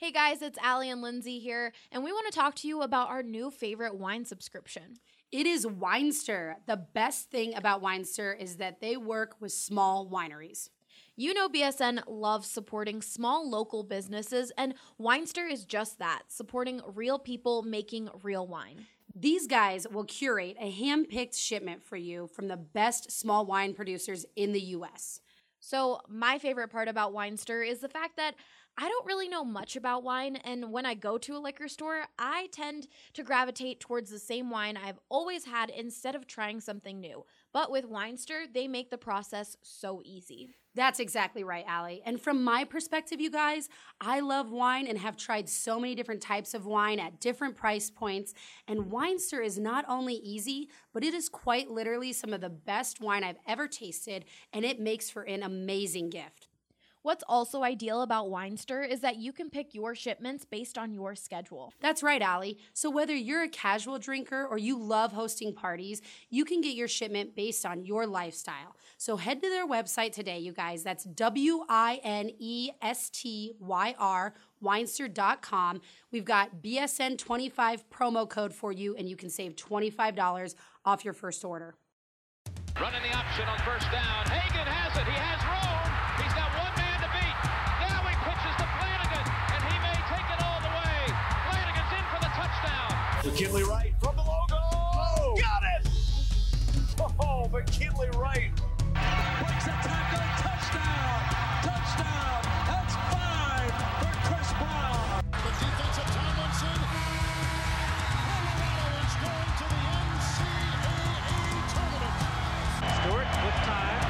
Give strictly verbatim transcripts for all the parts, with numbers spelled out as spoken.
Hey guys, it's Allie and Lindsay here, and we want to talk to you about our new favorite wine subscription. It is Winestyr. The best thing about Winestyr is that they work with small wineries. You know B S N loves supporting small local businesses, and Winestyr is just that, supporting real people making real wine. These guys will curate a hand-picked shipment for you from the best small wine producers in the U S. So my favorite part about Winestyr is the fact that I don't really know much about wine, and when I go to a liquor store, I tend to gravitate towards the same wine I've always had instead of trying something new. But with Winestyr, they make the process so easy. That's exactly right, Allie. And from my perspective, you guys, I love wine and have tried so many different types of wine at different price points. And Winestyr is not only easy, but it is quite literally some of the best wine I've ever tasted, and it makes for an amazing gift. What's also ideal about Winestyr is that you can pick your shipments based on your schedule. That's right, Allie. So whether you're a casual drinker or you love hosting parties, you can get your shipment based on your lifestyle. So head to their website today, you guys. That's W I N E S T Y R, winestyr dot com. We've got B S N twenty-five promo code for you, and you can save twenty-five dollars off your first order. Running the option on first down. Hagan has it. He has room. He's got one man to beat. Now he pitches to Flanagan, and he may take it all the way. Flanagan's in for the touchdown. McKinley Wright from the logo. Oh, got it! Oh, McKinley Wright. Breaks a tackle. Touchdown! Touchdown! That's five for Chris Brown. The defense of Tomlinson. Colorado is going to the N C double A tournament. Stewart with time.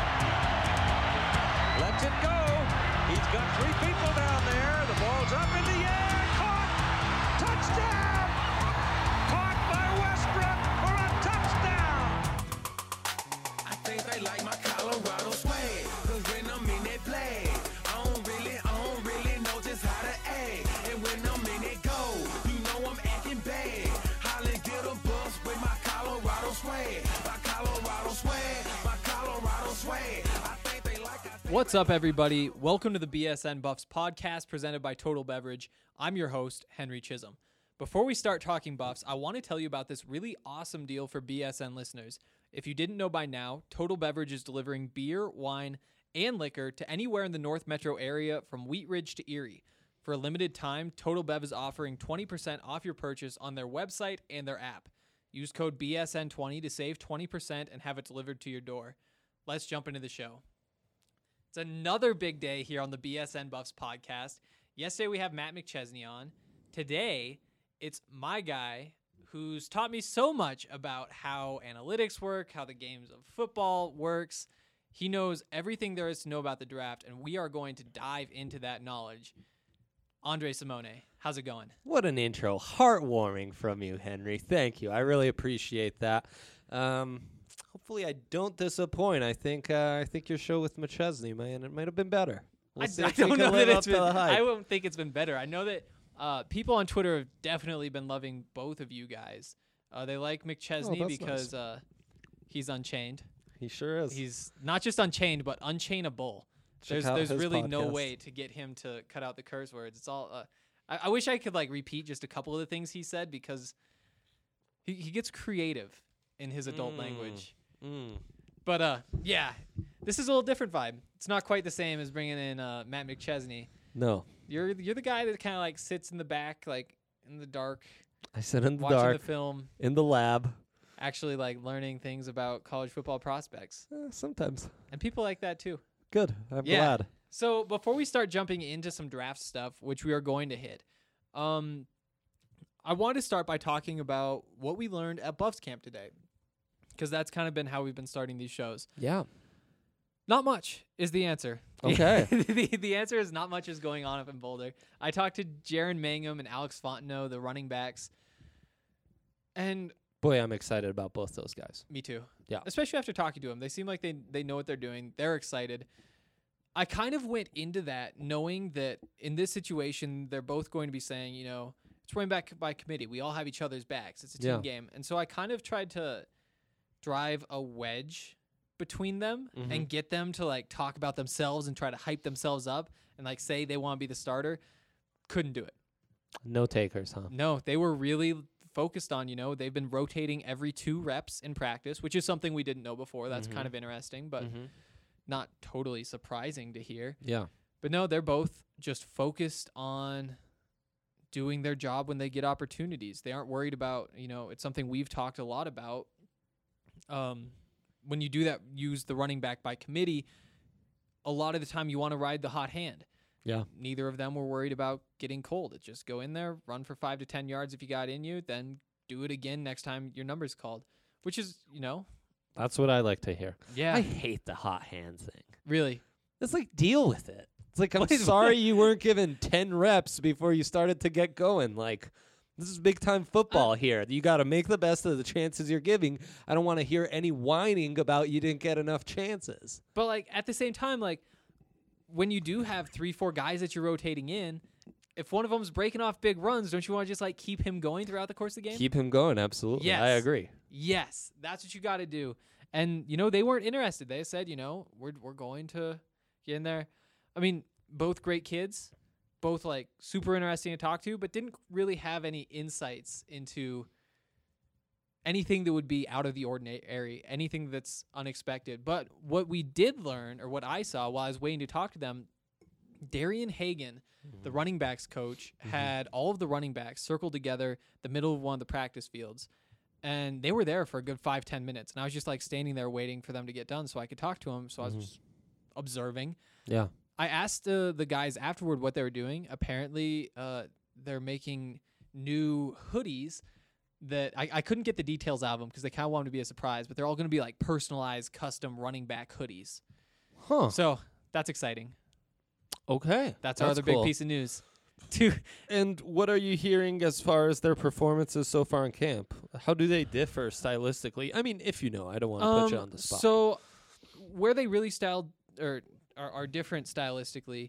Lets it go. He's got three people down there. The ball's up in the air. Caught. Touchdown. Caught by Westbrook for a touchdown. I think they like my Colorado swag. Cause when I'm in that play, I don't really, I don't really know just how to act. And when I'm in that go, you know I'm acting bad. Holly get a bus with my Colorado swag. My Colorado swag. My Colorado swag. I think they like I think What's up, everybody? Welcome to the B S N Buffs podcast presented by Total Beverage. I'm your host, Henry Chisholm. Before we start talking Buffs, I want to tell you about this really awesome deal for B S N listeners. If you didn't know by now, Total Beverage is delivering beer, wine, and liquor to anywhere in the North Metro area from Wheat Ridge to Erie. For a limited time, Total Bev is offering twenty percent off your purchase on their website and their app. Use code B S N twenty to save twenty percent and have it delivered to your door. Let's jump into the show. It's another big day here on the B S N Buffs podcast. Yesterday we have Matt McChesney on. Today, it's my guy who's taught me so much about how analytics work, how the games of football works. He knows everything there is to know about the draft, and we are going to dive into that knowledge. Andre Simone, how's it going? What an intro. Heartwarming from you, Henry. Thank you. I really appreciate that. Um, hopefully I don't disappoint. I think uh, I think your show with McChesney, man, it might have been better. We'll I, see I if we don't can know live that up it's to the been, hype. I won't think it's been better. I know that uh, people on Twitter have definitely been loving both of you guys. Uh, they like McChesney Oh, that's because nice. uh, he's unchained. He sure is. He's not just unchained, but unchainable. Check There's out there's his really no podcast. way to get him to cut out the curse words. It's all. Uh, I, I wish I could like repeat just a couple of the things he said because he he gets creative in his adult Mm. language. Mm. But uh, yeah, this is a little different vibe. It's not quite the same as bringing in uh, Matt McChesney. No. You're you're the guy that kind of like sits in the back, like in the dark, I sit in the watching dark, the film, in the lab. actually like learning things about college football prospects, Uh, sometimes. and people like that too. Good. I'm Yeah. glad. So before we start jumping into some draft stuff, which we are going to hit, um, I want to start by talking about what we learned at Buffs camp today, because that's kind of been how we've been starting these shows. Yeah. Not much is the answer. Okay. the, the answer is not much is going on up in Boulder. I talked to Jaron Mangum and Alex Fontenot, the running backs, and Boy, I'm excited about both those guys. me too. Yeah. Especially after talking to them. They seem like they they know what they're doing. They're excited. I kind of went into that knowing that in this situation, they're both going to be saying, you know, it's running back by committee. We all have each other's backs. It's a team Yeah. game. And so I kind of tried to drive a wedge between them Mhm. and get them to like talk about themselves and try to hype themselves up and like say they want to be the starter. couldn't do it. No takers, huh? No, they were really focused on, you know, they've been rotating every two reps in practice, which is something we didn't know before. That's Mhm. kind of interesting, but Mhm. not totally surprising to hear. Yeah. But no, they're both just focused on doing their job when they get opportunities. They aren't worried about, you know, it's something we've talked a lot about. Um, when you do that, use the running back by committee, a lot of the time you want to ride the hot hand. Yeah. Neither of them were worried about getting cold. It's just go in there, run for five to ten yards if you got in you, then do it again next time your number's called, which is, you know. That's what I like to hear. Yeah. I hate the hot hand thing. Really? It's like, deal with it. It's like, I'm What is- sorry you weren't given ten reps before you started to get going. Like, this is big time football here. You got to make the best of the chances you're giving. I don't want to hear any whining about you didn't get enough chances. But, like, at the same time, like, when you do have three, four guys that you're rotating in, if one of them's breaking off big runs, don't you want to just, like, keep him going throughout the course of the game? Keep him going, absolutely. Yes. I agree. Yes, that's what you got to do. And, you know, they weren't interested. They said, you know, we're we're going to get in there. I mean, both great kids, both, like, super interesting to talk to, but didn't really have any insights into anything that would be out of the ordinary, anything that's unexpected. But what we did learn, or what I saw while I was waiting to talk to them, Darian Hagan, Mm-hmm. the running backs coach, had all of the running backs circled together the middle of one of the practice fields. And they were there for a good five, ten minutes. And I was just like standing there waiting for them to get done so I could talk to them. So I was Mhm. just observing. Yeah. I asked uh, the guys afterward what they were doing. Apparently, uh, they're making new hoodies that I, I couldn't get the details out of them because they kind of wanted to be a surprise, but they're all going to be like personalized, custom running back hoodies. Huh. So that's exciting. Okay. That's, our other cool. big piece of news. Two. And what are you hearing as far as their performances so far in camp? How do they differ stylistically? I mean, if you know, I don't want to put you Um, on the spot. So where they really styled or are, are different stylistically,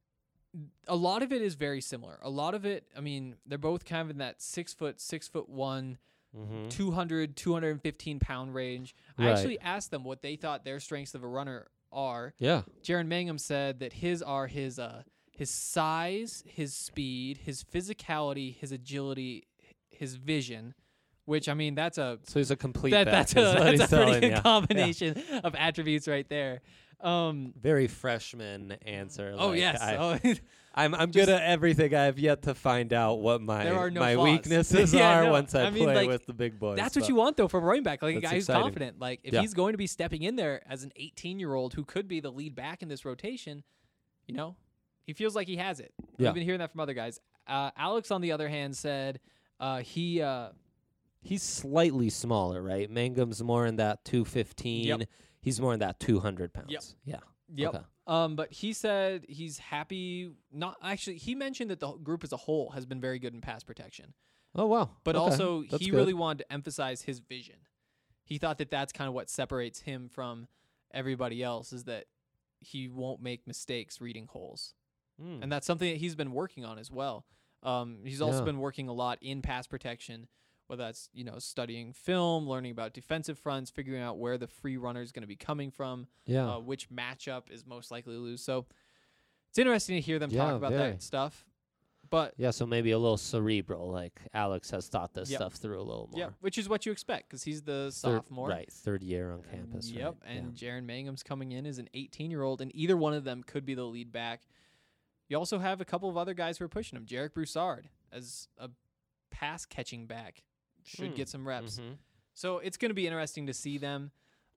a lot of it is very similar. A lot of it, I mean, they're both kind of in that six foot, six foot one, Mhm. two hundred, two hundred fifteen pound range. I Right. actually asked them what they thought their strengths of a runner are. Yeah. Jaron Mangum said that his are his uh his size, his speed, his physicality, his agility, his vision. Which I mean, that's a So he's a complete that, back, that's is a, what that's he's a pretty telling good ya. Yeah. combination of attributes right there. Um, Very freshman answer. oh like, yes, I, oh, I'm I'm Just- good at everything. I have yet to find out what my There are no my flaws. weaknesses Yeah, are no, once I, I mean, play like, with the big boys. that's what but- you want though from a running back, like a That's guy who's exciting. confident. Like if Yeah. he's going to be stepping in there as an eighteen year old who could be the lead back in this rotation, you know, he feels like he has it. Yeah. We've been hearing that from other guys. Uh, Alex, on the other hand, said uh, he. Uh, He's slightly smaller, right? Mangum's more in that two fifteen. Yep. He's more in that two hundred pounds. Yep. Yeah. Yep. Okay. Um, but he said he's happy. Not actually. He mentioned that the group as a whole has been very good in pass protection. Oh, wow. But Okay. also, That's he good. really wanted to emphasize his vision. He thought that that's kind of what separates him from everybody else is that he won't make mistakes reading holes. Mm. And that's something that he's been working on as well. Um, he's also Yeah. been working a lot in pass protection, whether that's, you know, studying film, learning about defensive fronts, figuring out where the free runner is going to be coming from, Yeah. uh, which matchup is most likely to lose. So it's interesting to hear them Yeah, talk about very. that stuff. But Yeah, so maybe a little cerebral, like Alex has thought this Yep. stuff through a little more. yeah, which is what you expect because he's the Third- sophomore. Right, third year on campus. Yep, right, and Jaron Mangum's coming in as an eighteen-year-old, and either one of them could be the lead back. You also have a couple of other guys who are pushing him. Jarek Broussard as a pass-catching back should Hmm. get some reps. yeah. hmm So it's going to be interesting to see them.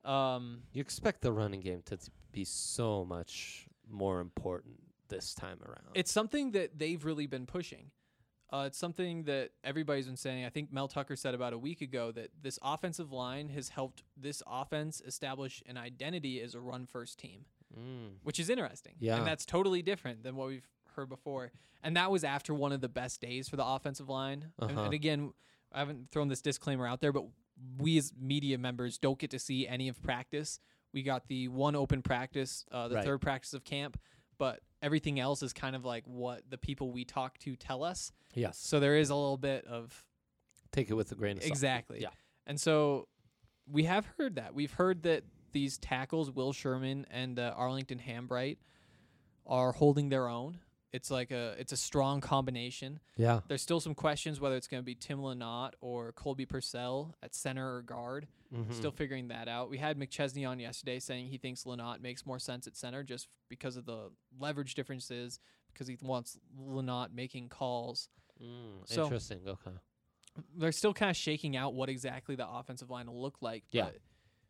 Um, You expect the running game to t- be so much more important this time around. it's something that they've really been pushing. Uh, it's something that everybody's been saying. I think Mel Tucker said about a week ago that this offensive line has helped this offense establish an identity as a run-first team. Mm. Which is interesting. Yeah. And that's totally different than what we've heard before. And that was after one of the best days for the offensive line. And, Uh-huh. and again, I haven't thrown this disclaimer out there, but we as media members don't get to see any of practice. We got the one open practice, uh, the Right. third practice of camp, but everything else is kind of like what the people we talk to tell us. Yes. So there is a little bit of Take it with a grain of salt. exactly. Yeah. And so we have heard that. We've heard that these tackles, Will Sherman and uh, Arlington Hambright, are holding their own. It's like a it's a strong combination. Yeah. There's still some questions whether it's going to be Tim Lynott or Colby Purcell at center or guard. Mhm. Still figuring that out. We had McChesney on yesterday saying he thinks Lynott makes more sense at center just because of the leverage differences, because he wants Lynott making calls. Mm, So- interesting. Okay. They're still kind of shaking out what exactly the offensive line will look like. Yeah. But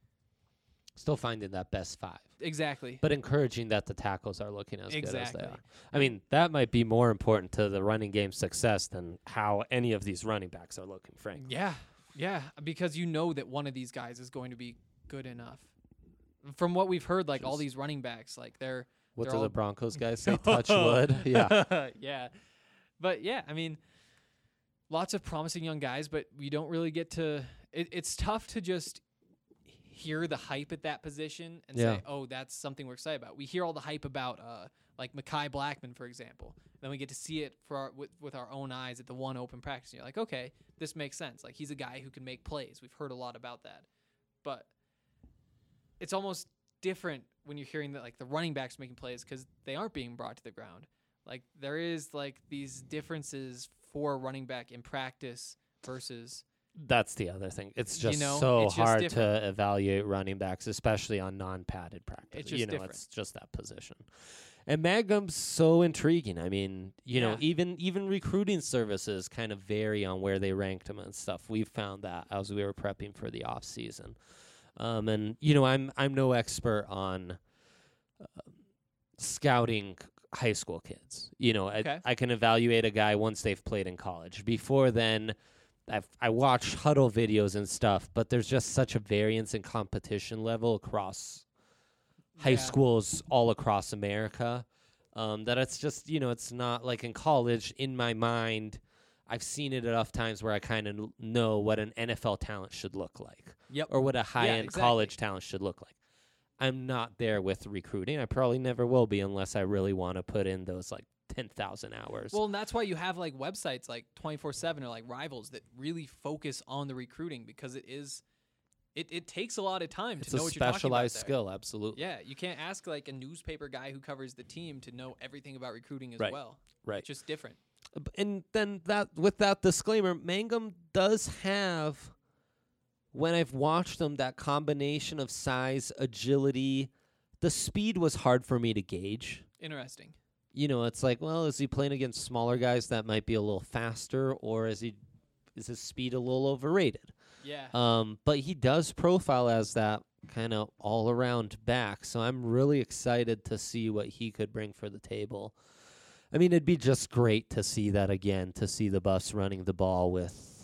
Still finding that best five. exactly. But encouraging that the tackles are looking as Exactly. good as they are. I mean, that might be more important to the running game success than how any of these running backs are looking, frankly. Yeah, yeah, because you know that one of these guys is going to be good enough. From what we've heard, like all Just- these running backs, like they're What they're do all- the Broncos guys say? Touch wood. Yeah. yeah, but yeah, I mean, lots of promising young guys, but we don't really get to. It, it's tough to just hear the hype at that position and Yeah. say, "Oh, that's something we're excited about." We hear all the hype about, uh, like Mekhi Blackman, for example. Then we get to see it for our, with, with our own eyes at the one open practice. And you're like, okay, this makes sense. Like he's a guy who can make plays. We've heard a lot about that, but it's almost different when you're hearing that like the running backs making plays because they aren't being brought to the ground. Like there is like these differences for a running back in practice versus That's the other thing. It's You just know, so it's just hard different. to evaluate running backs, especially on non-padded practice. It's just you know, different. it's just that position. And Magnum's so intriguing. I mean, you know, Yeah. even even recruiting services kind of vary on where they ranked him and stuff. We've found that as we were prepping for the off season. Um, and you know, I'm I'm no expert on uh, scouting high school kids. You know, Okay. I, I can evaluate a guy once they've played in college. Before then, I've I watch huddle videos and stuff, but there's just such a variance in competition level across high Yeah. schools all across America um, that it's just, you know, it's not like in college. In my mind, I've seen it enough times where I kind of n- know what an N F L talent should look like Yep. or what a high-end exactly. college talent should look like. I'm not there with recruiting. I probably never will be unless I really want to put in those like ten thousand hours. Well, and that's why you have like websites like twenty-four seven or like Rivals that really focus on the recruiting because it is, it, it takes a lot of time it's to know a what you're talking about specialized there. skill, absolutely. Yeah, you can't ask like a newspaper guy who covers the team to know everything about recruiting as Right. well. Right. It's just different. B- And then that with that disclaimer, Mangum does have, when I've watched him, that combination of size, agility. The speed was hard for me to gauge. Interesting. You know, it's like, well, is he playing against smaller guys that might be a little faster, or is he is his speed a little overrated? Yeah. Um, but he does profile as that kind of all around back, so I'm really excited to see what he could bring for the table. I mean, it'd be just great to see that again, to see the Buffs running the ball with,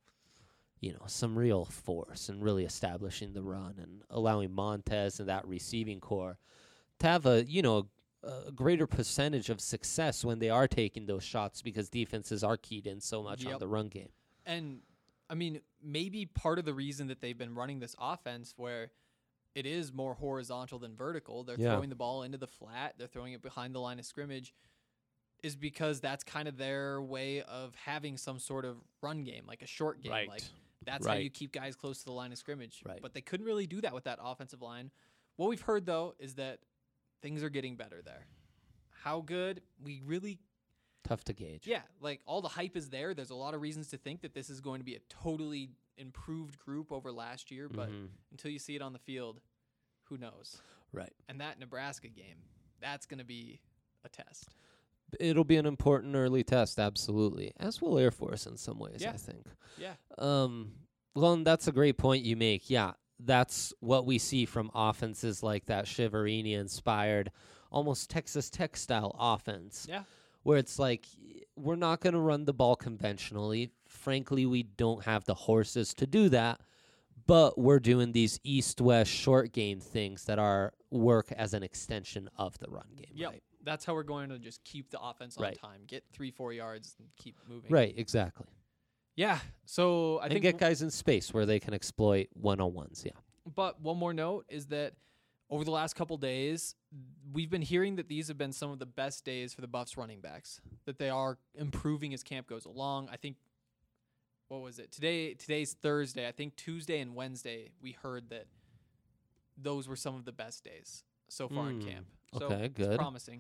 you know, some real force and really establishing the run and allowing Montez and that receiving core to have a, you know, a greater percentage of success when they are taking those shots because defenses are keyed in so much on Yep. the run game. And I mean, maybe part of the reason that they've been running this offense where it is more horizontal than vertical, they're Yeah. throwing the ball into the flat, they're throwing it behind the line of scrimmage, is because that's kind of their way of having some sort of run game, like a short game. Right. Like that's how Right. you keep guys close to the line of scrimmage. Right. But they couldn't really do that with that offensive line. What we've heard though is that things are getting better there. How good? We really Tough to gauge. yeah, like all the hype is there. There's a lot of reasons to think that this is going to be a totally improved group over last year, but Mhm. until you see it on the field, who knows? Right. And that Nebraska game, that's going to be a test. It'll be an important early test, absolutely. As will Air Force in some ways, Yeah. I think. Yeah. Um, well, and that's a great point you make. Yeah, that's what we see from offenses like that Shiverini-inspired, almost Texas Tech style offense. Yeah. Where it's like, we're not going to run the ball conventionally. Frankly, we don't have the horses to do that. But we're doing these east-west short game things that are work as an extension of the run game. Yep. Right. That's how we're going to just keep the offense on Right. time, get three, four yards, and keep moving. Right. Exactly. Yeah. So I and think get guys in space where they can exploit one-on-ones. Yeah. But one more note is that over the last couple days, we've been hearing that these have been some of the best days for the Buffs running backs, that they are improving as camp goes along. I think, what was it? Today, today's Thursday. I think Tuesday and Wednesday, we heard that those were some of the best days so far in Mm, camp. So okay, it's good. promising.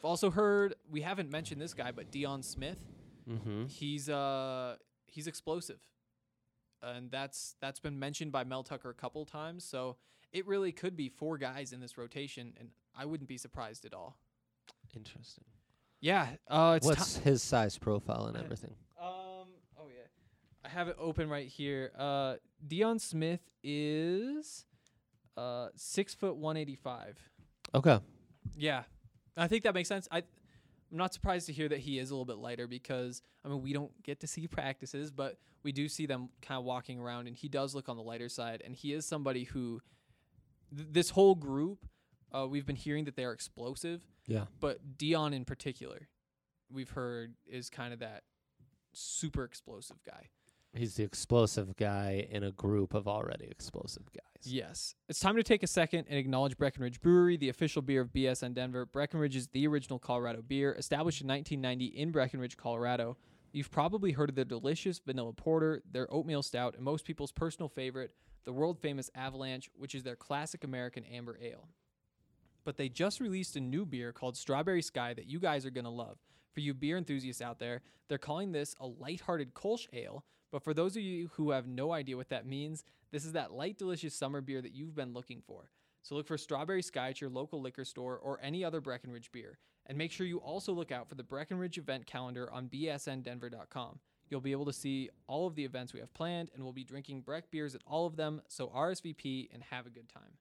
I've also heard, we haven't mentioned this guy, but Dion Smith. Mm-hmm. He's uh he's explosive. And that's that's been mentioned by Mel Tucker a couple times. So it really could be four guys in this rotation, and I wouldn't be surprised at all. Interesting. Yeah. Uh, it's What's ti- his size profile and everything? Um. Oh yeah, I have it open right here. Uh, Dion Smith is uh six foot one eighty five. Okay. Yeah, I think that makes sense. I, I'm not surprised to hear that he is a little bit lighter because I mean we don't get to see practices, but we do see them kind of walking around, and he does look on the lighter side. And he is somebody who, th- this whole group, uh, we've been hearing that they are explosive. Yeah. But Dion in particular, we've heard is kind of that super explosive guy. He's the explosive guy in a group of already explosive guys. Yes. It's time to take a second and acknowledge Breckenridge Brewery, the official beer of B S N Denver. Breckenridge is the original Colorado beer, established in nineteen ninety in Breckenridge, Colorado. You've probably heard of their delicious vanilla porter, their oatmeal stout, and most people's personal favorite, the world-famous Avalanche, which is their classic American amber ale. But they just released a new beer called Strawberry Sky that you guys are going to love. For you beer enthusiasts out there, they're calling this a lighthearted Kolsch ale. But for those of you who have no idea what that means, this is that light, delicious summer beer that you've been looking for. So look for Strawberry Sky at your local liquor store or any other Breckenridge beer. And make sure you also look out for the Breckenridge event calendar on b s n denver dot com. You'll be able to see all of the events we have planned, and we'll be drinking Breck beers at all of them, so R S V P and have a good time.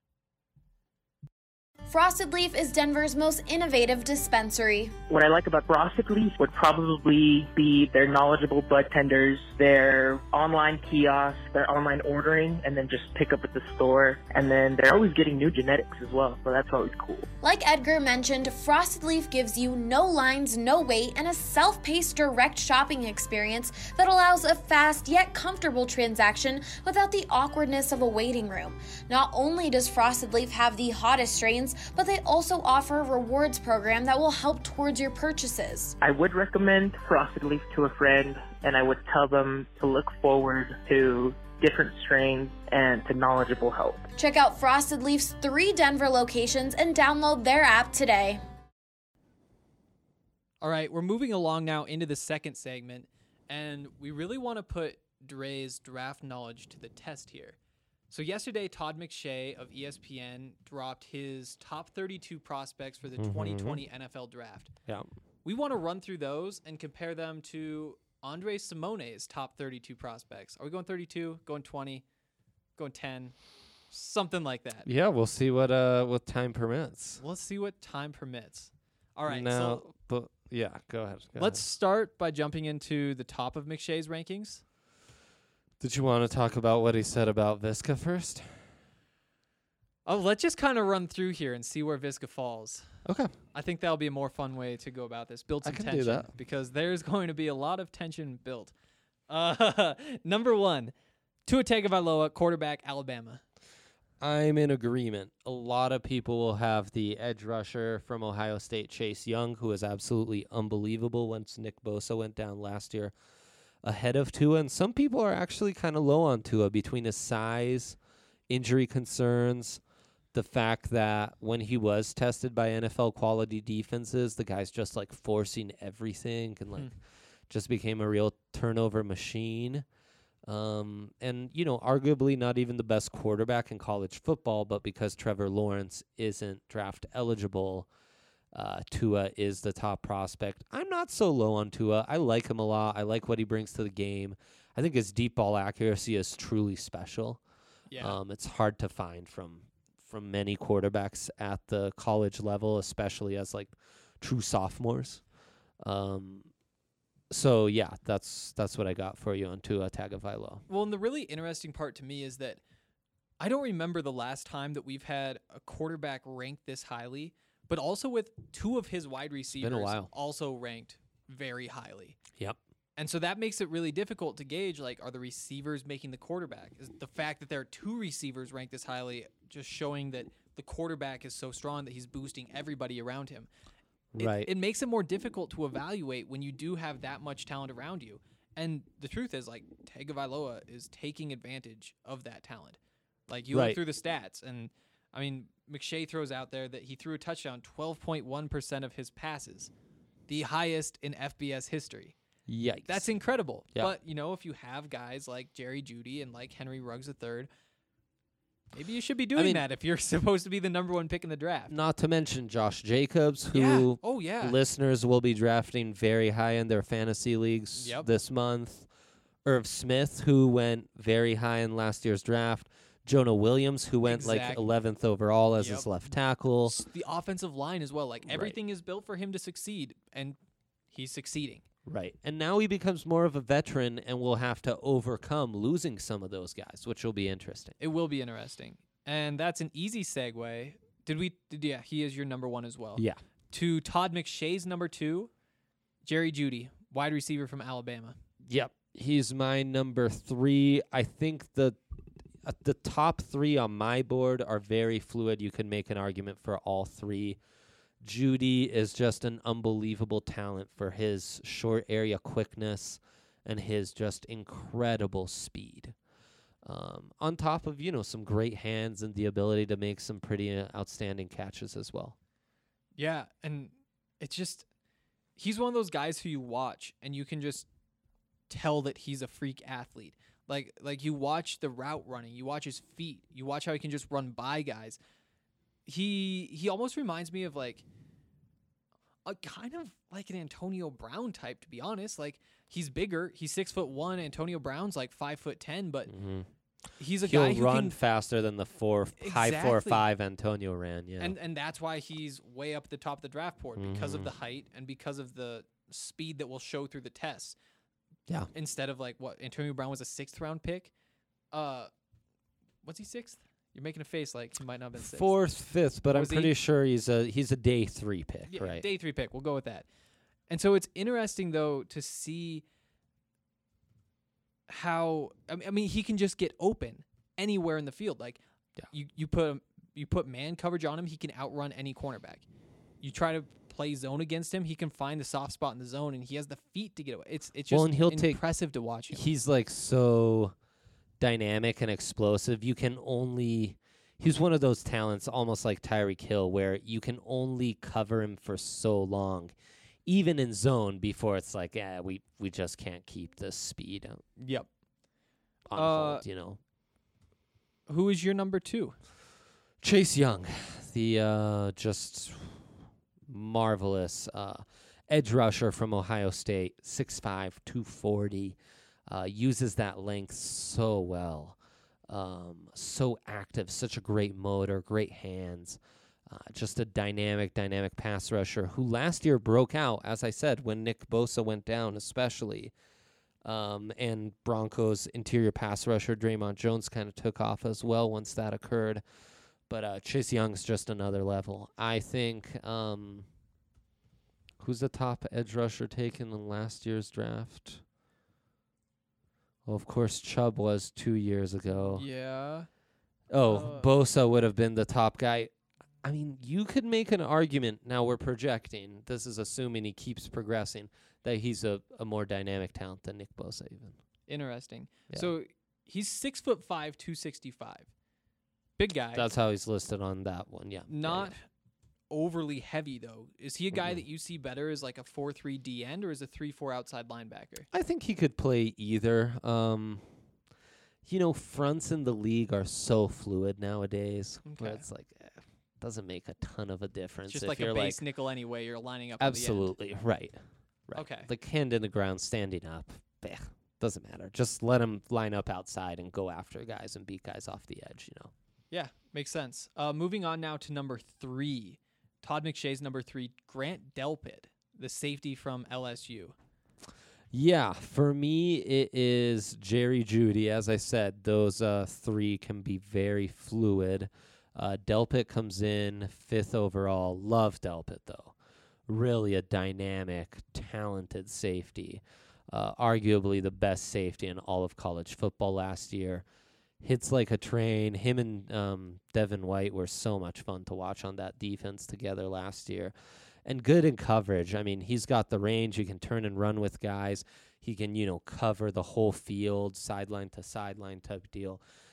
Frosted Leaf is Denver's most innovative dispensary. What I like about Frosted Leaf would probably be their knowledgeable bud tenders, their online kiosk, their online ordering, and then just pick up at the store. And then they're always getting new genetics as well, so that's always cool. Like Edgar mentioned, Frosted Leaf gives you no lines, no wait, and a self-paced direct shopping experience that allows a fast yet comfortable transaction without the awkwardness of a waiting room. Not only does Frosted Leaf have the hottest strains, but they also offer a rewards program that will help towards your purchases. I would recommend Frosted Leaf to a friend, and I would tell them to look forward to different strains and to knowledgeable help. Check out Frosted Leaf's three Denver locations and download their app today. All right, we're moving along now into the second segment, and we really want to put Dre's draft knowledge to the test here. So yesterday, Todd McShay of E S P N dropped his top thirty-two prospects for the Mm-hmm. twenty twenty N F L Draft. Yeah. We want to run through those and compare them to Andre Simone's top thirty-two prospects. Are we going thirty-two, going twenty, going ten, something like that? Yeah, we'll see what uh what time permits. Let's see what time permits. All right, Now, so but yeah, go ahead. Go let's ahead. start by jumping into the top of McShay's rankings. Did you want to talk about what he said about Visca first? Oh, let's just kind of run through here and see where Visca falls. Okay. I think that'll be a more fun way to go about this. Build I some can do tension that. because there's going to be a lot of tension built. Uh, number one, Tua Tagovailoa, quarterback, Alabama. I'm in agreement. A lot of people will have the edge rusher from Ohio State, Chase Young, who was absolutely unbelievable once Nick Bosa went down last year, ahead of Tua. And some people are actually kind of low on Tua between his size, injury concerns, the fact that when he was tested by N F L quality defenses, the guy's just like forcing everything and like Hmm. just became a real turnover machine. Um, and, you know, arguably not even the best quarterback in college football, but because Trevor Lawrence isn't draft eligible, uh, Tua is the top prospect. I'm not so low on Tua. I like him a lot. I like what he brings to the game. I think his deep ball accuracy is truly special. Yeah. Um, it's hard to find from from many quarterbacks at the college level, especially as like true sophomores. Um, so yeah, that's that's what I got for you on Tua Tagovailoa. Well, and the really interesting part to me is that I don't remember the last time that we've had a quarterback ranked this highly, but also with two of his wide receivers while. also ranked very highly. Yep. And so that makes it really difficult to gauge, like, are the receivers making the quarterback? Is the fact that there are two receivers ranked this highly just showing that the quarterback is so strong that he's boosting everybody around him? It, Right. It makes it more difficult to evaluate when you do have that much talent around you. And the truth is, like, Tagovailoa is taking advantage of that talent. Like, you Right. look through the stats, and I mean, McShay throws out there that he threw a touchdown twelve point one percent of his passes, the highest in F B S history. Yikes. That's incredible. Yeah. But, you know, if you have guys like Jerry Jeudy and like Henry Ruggs the third, maybe you should be doing mean- that if you're supposed to be the number one pick in the draft. Not to mention Josh Jacobs, who Yeah. Oh, yeah. listeners will be drafting very high in their fantasy leagues Yep. this month. Irv Smith, who went very high in last year's draft. Jonah Williams, who went like Exactly. eleventh overall as Yep. his left tackle. S- The offensive line as well. Like, Right. everything is built for him to succeed, and he's succeeding. Right. And now he becomes more of a veteran and will have to overcome losing some of those guys, which will be interesting. It will be interesting. And that's an easy segue. Did we? Did, yeah, he is your number one as well. Yeah. To Todd McShay's number two, Jerry Jeudy, wide receiver from Alabama. Yep. He's my number three. I think the uh, the top three on my board are very fluid. You can make an argument for all three. Jeudy is just an unbelievable talent for his short area quickness and his just incredible speed. Um, on top of, you know, some great hands and the ability to make some pretty uh, outstanding catches as well. Yeah, and it's just he's one of those guys who you watch and you can just tell that he's a freak athlete. Like like you watch the route running, you watch his feet, you watch how he can just run by guys. He he almost reminds me of like a kind of like an Antonio Brown type, to be honest. Like he's bigger, he's six foot one. Antonio Brown's like five foot ten, but Mm-hmm. he's a He'll guy who run can faster than the four high four Exactly. five Antonio ran. Yeah, And and that's why he's way up at the top of the draft board because of the height and because of the speed that will show through the tests. yeah. Instead of like what Antonio Brown was a sixth round pick. Uh, what's he sixth? You're making a face like he might not have been sixth. Fourth, fifth, but I'm Was he? pretty sure he's a he's a day three pick, Yeah, right? Day three pick. We'll go with that. And so it's interesting though to see how I mean, I mean he can just get open anywhere in the field. Like Yeah. you you put him, you put man coverage on him, he can outrun any cornerback. You try to play zone against him, he can find the soft spot in the zone, and he has the feet to get away. It's it's just Well, and he'll take- impressive to watch him. He's like so dynamic and explosive. You can only he's one of those talents, almost like Tyreek Hill, where you can only cover him for so long, even in zone, before it's like, yeah, we we just can't keep this speed on Yep. on Uh, hold, you know. Who is your number two? Chase Young, the uh, just marvelous uh, edge rusher from Ohio State, six five, two forty, uh, uses that length so well, um, so active, such a great motor, great hands, uh, just a dynamic, dynamic pass rusher who last year broke out, as I said, when Nick Bosa went down especially. Um, and Broncos interior pass rusher Draymond Jones kind of took off as well once that occurred. But uh, Chase Young's just another level. I think, um, who's the top edge rusher taken in last year's draft? Well, of course, Chubb was two years ago. Yeah. Oh, Uh, Bosa would have been the top guy. I mean, you could make an argument. Now we're projecting. This is assuming he keeps progressing, that he's a, a more dynamic talent than Nick Bosa even. Interesting. Yeah. So he's six foot five, two sixty five. Big guy. That's how he's listed on that one, yeah. Yeah, Not yeah. overly heavy though. Is he a guy Mhm. that you see better as like a four three D end or as a three four outside linebacker? I think he could play either. Um, you know, fronts in the league are so fluid nowadays, where Okay. it's like eh, doesn't make a ton of a difference. It's just if like you're a base like, nickel anyway. You're lining up. on the end. absolutely right, right. Okay. Like hand in the ground, standing up. Bleh, doesn't matter. Just let him line up outside and go after guys and beat guys off the edge. You know. Yeah, makes sense. Uh, moving on now to number three. Todd McShay's number three, Grant Delpit, the safety from L S U. Yeah, for me, it is Jerry Jeudy. As I said, those uh, three can be very fluid. Uh, Delpit comes in fifth overall. Love Delpit, though. Really a dynamic, talented safety. Uh, arguably the best safety in all of college football last year. Hits like a train. Him and um, Devin White were so much fun to watch on that defense together last year. And good in coverage. I mean, he's got the range. He can turn and run with guys. He can, you know, cover the whole field, sideline to sideline type deal.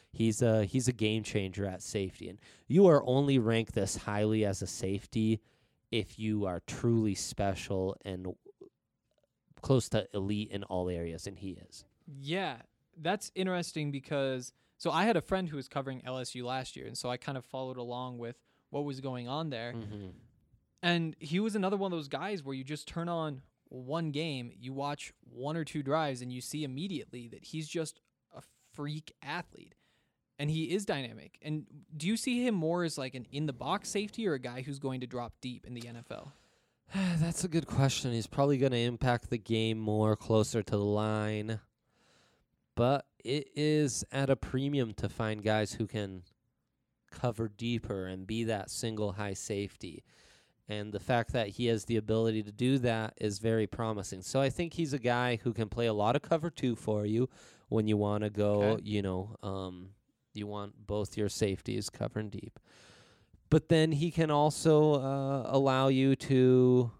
He's a he's a game changer at safety, and you are only ranked this highly as a safety if you are truly special and close to elite in all areas, and he is. Yeah, that's interesting because so I had a friend who was covering L S U last year, and so I kind of followed along with what was going on there. Mm-hmm. And he was another one of those guys where you just turn on one game, you watch one or two drives, and you see immediately that he's just a freak athlete. And he is dynamic. And do you see him more as like an in-the-box safety or a guy who's going to drop deep in the N F L? That's a good question. He's probably going to impact the game more closer to the line. But it is at a premium to find guys who can cover deeper and be that single high safety. And the fact that he has the ability to do that is very promising. So I think he's a guy who can play a lot of cover two for you when you want to go, Okay. you know, um, you want both your safeties covering deep. But then he can also uh, allow you to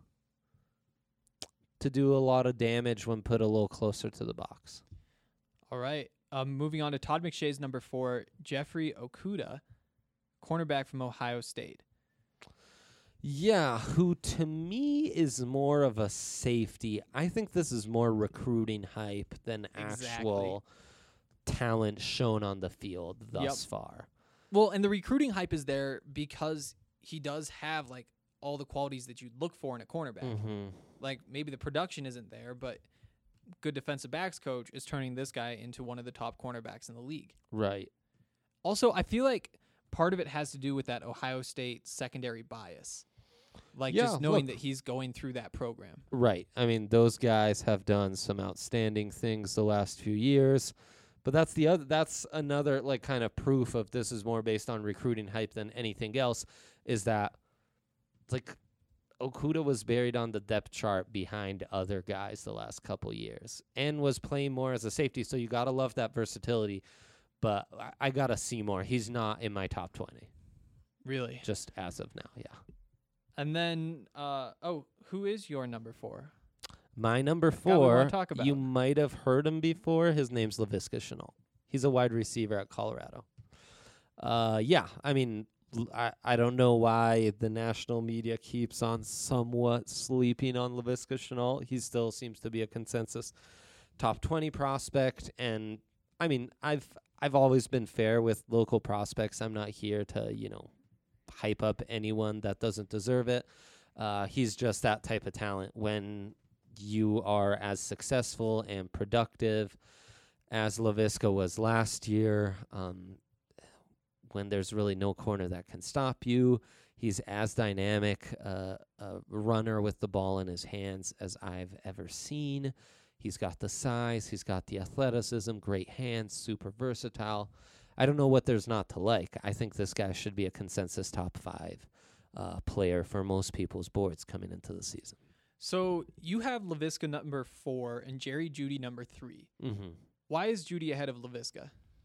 to do a lot of damage when put a little closer to the box. All right. Um, moving on to Todd McShay's number four, Jeffrey Okudah, cornerback from Ohio State. Yeah, who to me is more of a safety. I think this is more recruiting hype than Exactly. actual talent shown on the field thus Yep. far. Well, and the recruiting hype is there because he does have like all the qualities that you'd look for in a cornerback. Mm-hmm. Like maybe the production isn't there, but good defensive backs coach is turning this guy into one of the top cornerbacks in the league. Right. Also, I feel like part of it has to do with that Ohio State secondary bias. Like Yeah, just knowing look. that he's going through that program. Right. I mean, those guys have done some outstanding things the last few years. But that's the other that's another like kind of proof of this is more based on recruiting hype than anything else, is that like Okudah was buried on the depth chart behind other guys the last couple years and was playing more as a safety. So you got to love that versatility. But I, I got to see more. He's not in my top twenty. Really? Just as of now, yeah. And then, uh, oh, who is your number four? My number Guy we wanna four, talk about. you might have heard him before. His name's Laviska Shenault. He's a wide receiver at Colorado. Uh, yeah, I mean, l- I, I don't know why the national media keeps on somewhat sleeping on Laviska Shenault. He still seems to be a consensus top twenty prospect. And, I mean, I've I've always been fair with local prospects. I'm not here to, you know, hype up anyone that doesn't deserve it. Uh, he's just that type of talent. When you are as successful and productive as Laviska was last year, um, when there's really no corner that can stop you, he's as dynamic uh, a runner with the ball in his hands as I've ever seen. He's got the size, he's got the athleticism, great hands, super versatile. I don't know what there's not to like. I think this guy should be a consensus top five uh, player for most people's boards coming into the season. So you have Laviska number four and Jerry Jeudy number three. Mm-hmm. Why is Jeudy ahead of Laviska?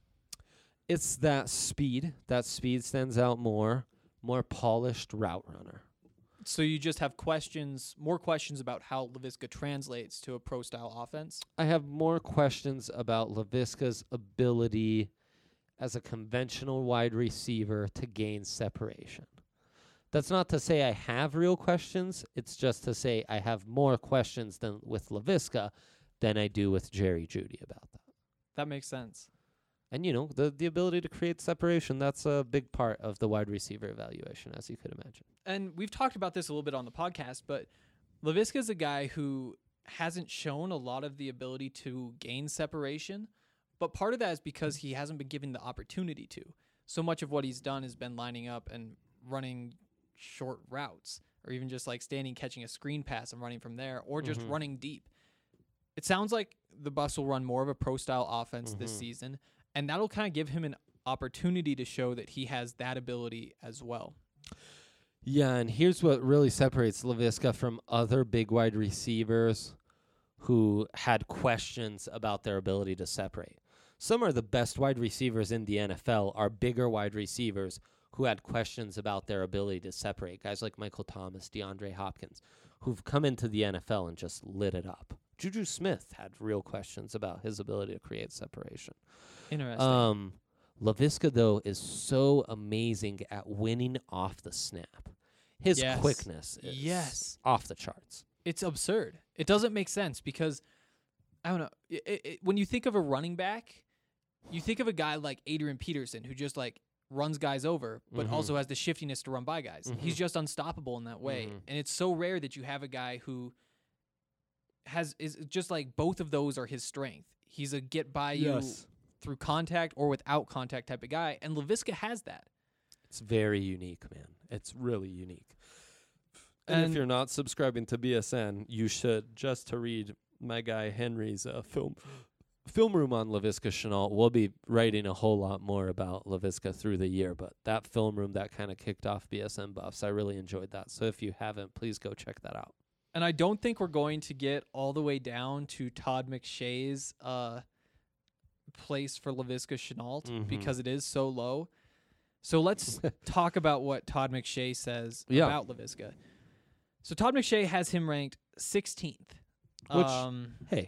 It's that speed. That speed stands out more. More polished route runner. So you just have questions, more questions about how Laviska translates to a pro-style offense? I have more questions about Laviska's ability as a conventional wide receiver to gain separation. That's not to say I have real questions. It's just to say I have more questions than with Laviska than I do with Jerry Jeudy about that. That makes sense. And, you know, the, the ability to create separation, that's a big part of the wide receiver evaluation, as you could imagine. And we've talked about this a little bit on the podcast, but Laviska is a guy who hasn't shown a lot of the ability to gain separation, but part of that is because he hasn't been given the opportunity to. So much of what he's done has been lining up and running short routes, or even just like standing, catching a screen pass and running from there, or just Mhm. running deep. It sounds like the Bucs will run more of a pro-style offense this Mhm. season, and that'll kind of give him an opportunity to show that he has that ability as well. Yeah, and here's what really separates Laviska from other big wide receivers who had questions about their ability to separate. Some of the best wide receivers in the N F L are bigger wide receivers who had questions about their ability to separate. Guys like Michael Thomas, DeAndre Hopkins, who've come into the N F L and just lit it up. Juju Smith had real questions about his ability to create separation. Interesting. Um, LaVisca, though, is so amazing at winning off the snap. His Yes. quickness is Yes. off the charts. It's absurd. It doesn't make sense because, I don't know, it, it, when you think of a running back, you think of a guy like Adrian Peterson who just like runs guys over, but Mhm. also has the shiftiness to run by guys. Mhm. He's just unstoppable in that way. Mhm. And it's so rare that you have a guy who has is just like both of those are his strength. He's a get by you Yes. through contact or without contact type of guy, and LaVisca has that. It's very unique, man. It's really unique. And, And- if you're not subscribing to B S N, you should, just to read my guy Henry's uh, film film room on LaVisca Chenault. We'll be writing a whole lot more about LaVisca through the year, but that film room that kind of kicked off B S N Buffs, I really enjoyed that. So if you haven't, please go check that out. And I don't think we're going to get all the way down to Todd McShay's uh, place for LaVisca Chenault Mhm. because it is so low. So let's talk about what Todd McShay says Yeah. about LaVisca. So Todd McShay has him ranked sixteenth. Which, um, hey,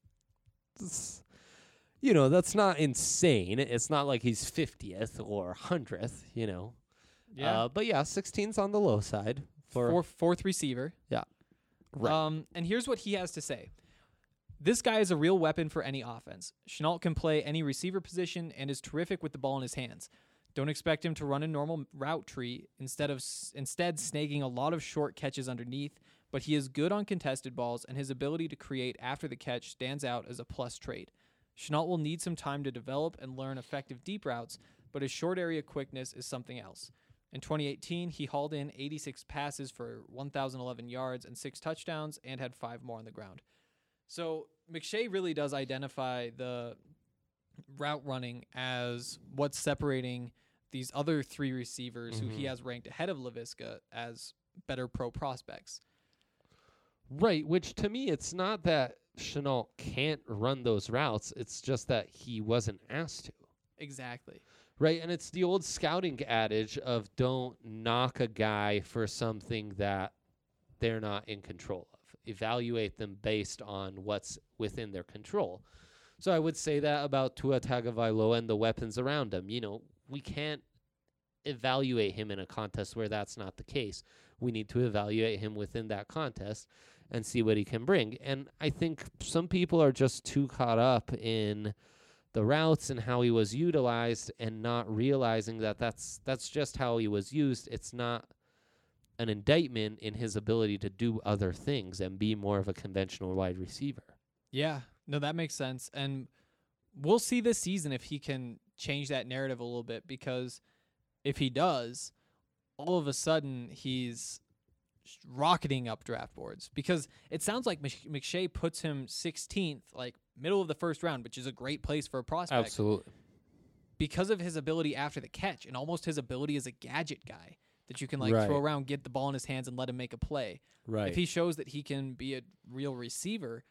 it's, you know, that's not insane. It's not like he's fiftieth or hundredth, you know. yeah, Uh, but yeah, sixteen's on the low side. For fourth, fourth receiver. Right. Um, and here's what he has to say. This guy is a real weapon for any offense. Chenault can play any receiver position and is terrific with the ball in his hands. Don't expect him to run a normal route tree instead of s- instead snagging a lot of short catches underneath, but he is good on contested balls, and his ability to create after the catch stands out as a plus trait. Chenault will need some time to develop and learn effective deep routes, but his short area quickness is something else. In twenty eighteen, he hauled in eighty-six passes for one thousand eleven yards and six touchdowns and had five more on the ground. So McShay really does identify the route running as what's separating these other three receivers who he Mhm. has ranked ahead of LaVisca as better pro prospects. Right, which to me, it's not that Chenault can't run those routes. It's just that he wasn't asked to. Exactly. Right, and it's the old scouting adage of don't knock a guy for something that they're not in control of. Evaluate them based on what's within their control. So I would say that about Tua Tagovailoa and the weapons around him. You know, we can't evaluate him in a contest where that's not the case. We need to evaluate him within that contest and see what he can bring. And I think some people are just too caught up in the routes and how he was utilized and not realizing that that's that's just how he was used. It's not an indictment in his ability to do other things and be more of a conventional wide receiver. Yeah, no, that makes sense. And we'll see this season if he can change that narrative a little bit, because if he does, all of a sudden he's sh- rocketing up draft boards, because it sounds like Mc- McShay puts him sixteenth, like middle of the first round, which is a great place for a prospect. Absolutely. Because of his ability after the catch and almost his ability as a gadget guy that you can like Right. throw around, get the ball in his hands and let him make a play. Right. If he shows that he can be a real receiver,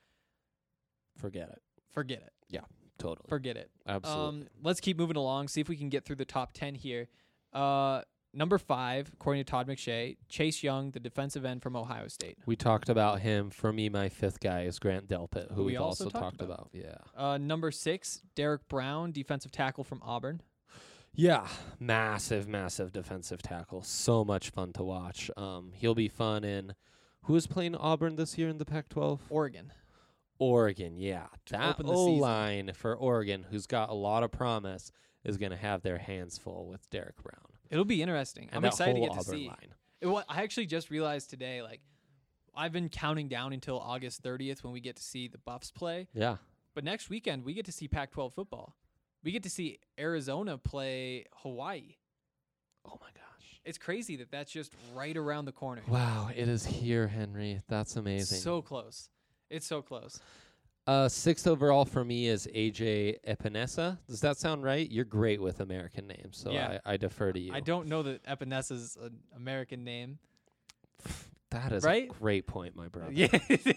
Forget it. forget it. Totally. Forget it. Absolutely. Um, let's keep moving along, see if we can get through the top ten here. Uh, number five, according to Todd McShay, Chase Young, the defensive end from Ohio State. We talked about him. For me, my fifth guy is Grant Delpit, who Who we we've also also, talked talked about. about. Yeah. Uh, number six, Derek Brown, defensive tackle from Auburn. Yeah, massive, massive defensive tackle. So much fun to watch. Um, he'll be fun in. Who is playing Auburn this year in the Pac twelve? Oregon. Oregon, yeah. That open the O season. line for Oregon, who's got a lot of promise, is going to have their hands full with Derek Brown. It'll be interesting. And I'm that excited to whole get to Auburn see. line. It, wa- I actually just realized today, like, I've been counting down until August thirtieth when we get to see the Buffs play. Yeah. But next weekend, we get to see Pac twelve football. We get to see Arizona play Hawaii. Oh, my gosh. It's crazy that that's just right around the corner. Wow, it is here, Henry. That's amazing. So close. It's so close. Uh, sixth overall for me is A J Epinesa. Does that sound right? You're great with American names, so Yeah. I, I defer to you. I don't know that Epinesa's an American name. That is Right? a great point, my brother. Yeah.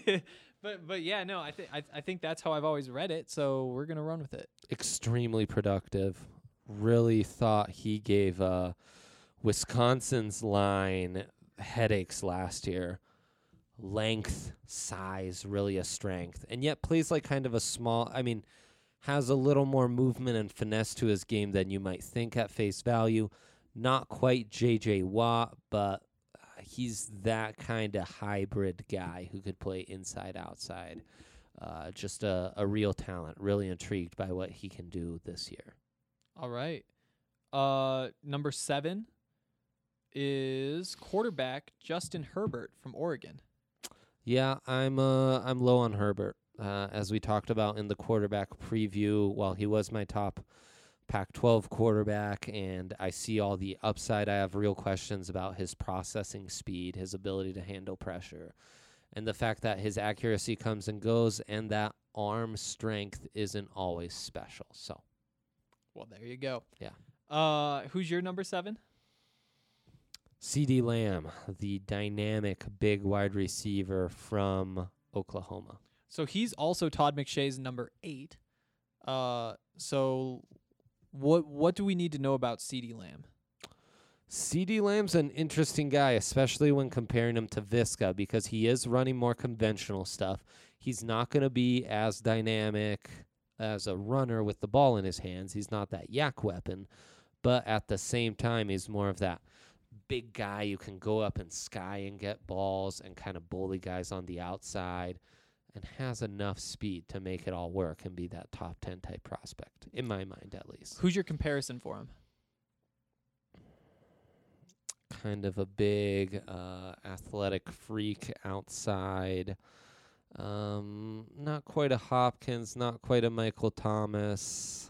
but but yeah, no, I think I I think that's how I've always read it, so we're going to run with it. Extremely productive. Really thought he gave uh, Wisconsin's line headaches last year. Length, size, really a strength, and yet plays like kind of a small. I mean, has a little more movement and finesse to his game than you might think at face value. Not quite J J Watt, but he's that kind of hybrid guy who could play inside, outside. Uh, just a, a real talent. Really intrigued by what he can do this year. All right. Uh, number seven is quarterback Justin Herbert from Oregon. Yeah, I'm uh, I'm low on Herbert. Uh, as we talked about in the quarterback preview, while he was my top Pac twelve quarterback, and I see all the upside, I have real questions about his processing speed, his ability to handle pressure, and the fact that his accuracy comes and goes, and that arm strength isn't always special. So, well, there you go. Yeah. Uh, who's your number seven? CeeDee Lamb, the dynamic big wide receiver from Oklahoma. So he's also Todd McShay's number eight. Uh, so what what do we need to know about CeeDee Lamb? CeeDee Lamb's an interesting guy, especially when comparing him to Visca, because he is running more conventional stuff. He's not going to be as dynamic as a runner with the ball in his hands. He's not that yak weapon, but at the same time, he's more of that big guy who can go up in sky and get balls and kind of bully guys on the outside, and has enough speed to make it all work and be that top ten type prospect, in my mind at least. Who's your comparison for him? Kind of a big uh, athletic freak outside. Um, not quite a Hopkins, not quite a Michael Thomas.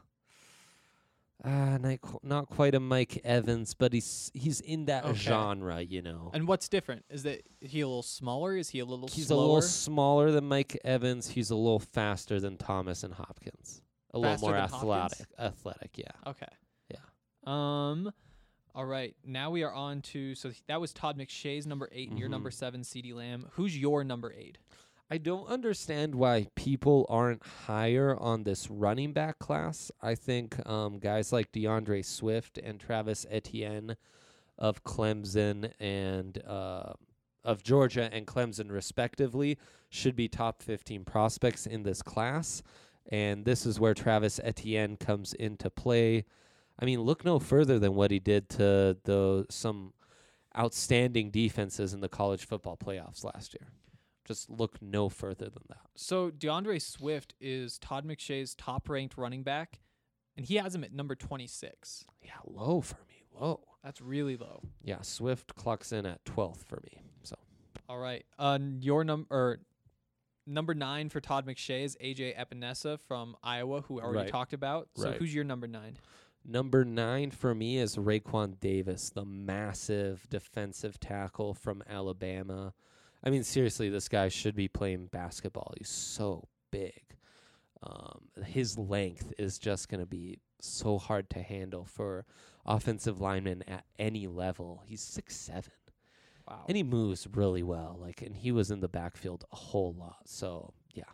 Uh, not, qu- not quite a Mike Evans, but he's he's in that Okay. genre, you know. And what's different? Is that he a little smaller? Is he a little He's slower? a little smaller than Mike Evans. He's a little faster than Thomas and Hopkins. A Faster little more than athletic. Hopkins? Athletic, yeah. Okay. Yeah. Um, all right. Now we are on to, so th- that was Todd McShay's number eight, and your Mhm. number seven, CeeDee Lamb. Who's your number eight? I don't understand why people aren't higher on this running back class. I think um, guys like DeAndre Swift and Travis Etienne of Clemson and uh, of Georgia and Clemson respectively should be top fifteen prospects in this class. And this is where Travis Etienne comes into play. I mean, look no further than what he did to the some outstanding defenses in the college football playoffs last year. Just look no further than that. So DeAndre Swift is Todd McShay's top-ranked running back, and he has him at number twenty-six. Yeah, low for me. Low. That's really low. Yeah, Swift clocks in at twelfth for me. So, All right. Uh, your number or number nine for Todd McShay is A J Epinesa from Iowa, who we already Right. talked about. So Right. who's your number nine? number nine for me is Raekwon Davis, the massive defensive tackle from Alabama. I mean, seriously, this guy should be playing basketball. He's so big. Um, his length is just going to be so hard to handle for offensive linemen at any level. He's six seven. Wow. And he moves really well. Like, and he was in the backfield a whole lot. So, yeah.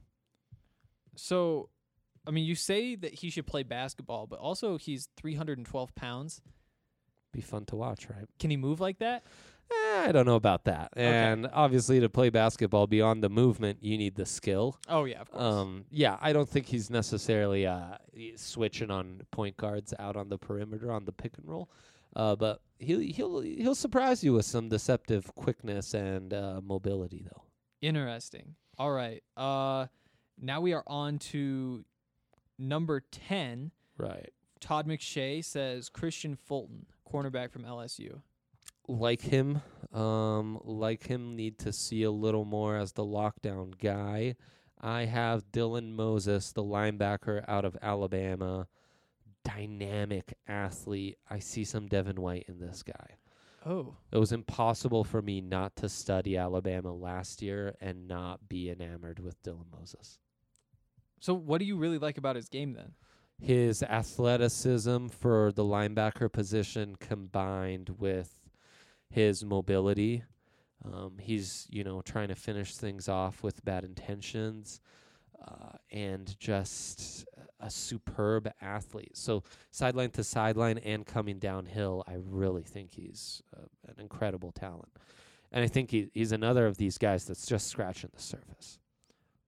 So, I mean, you say that he should play basketball, but also he's three hundred twelve pounds. Be fun to watch, right? Can he move like that? Eh, I don't know about that. Okay. And obviously, to play basketball beyond the movement, you need the skill. Oh, yeah, of course. Um, yeah, I don't think he's necessarily uh, switching on point guards out on the perimeter on the pick and roll. Uh, but he'll he'll he'll surprise you with some deceptive quickness and uh, mobility, though. Interesting. All right. Uh, now we are on to number ten. Right. Todd McShay says Christian Fulton, cornerback from L S U. Like him, um, like him, need to see a little more as the lockdown guy. I have Dylan Moses, the linebacker out of Alabama, dynamic athlete. I see some Devin White in this guy. Oh. It was impossible for me not to study Alabama last year and not be enamored with Dylan Moses. So what do you really like about his game then? His athleticism for the linebacker position combined with his mobility. Um, he's, you know, trying to finish things off with bad intentions, uh, and just a superb athlete. So sideline to sideline and coming downhill, I really think he's uh, an incredible talent. And I think he, he's another of these guys that's just scratching the surface.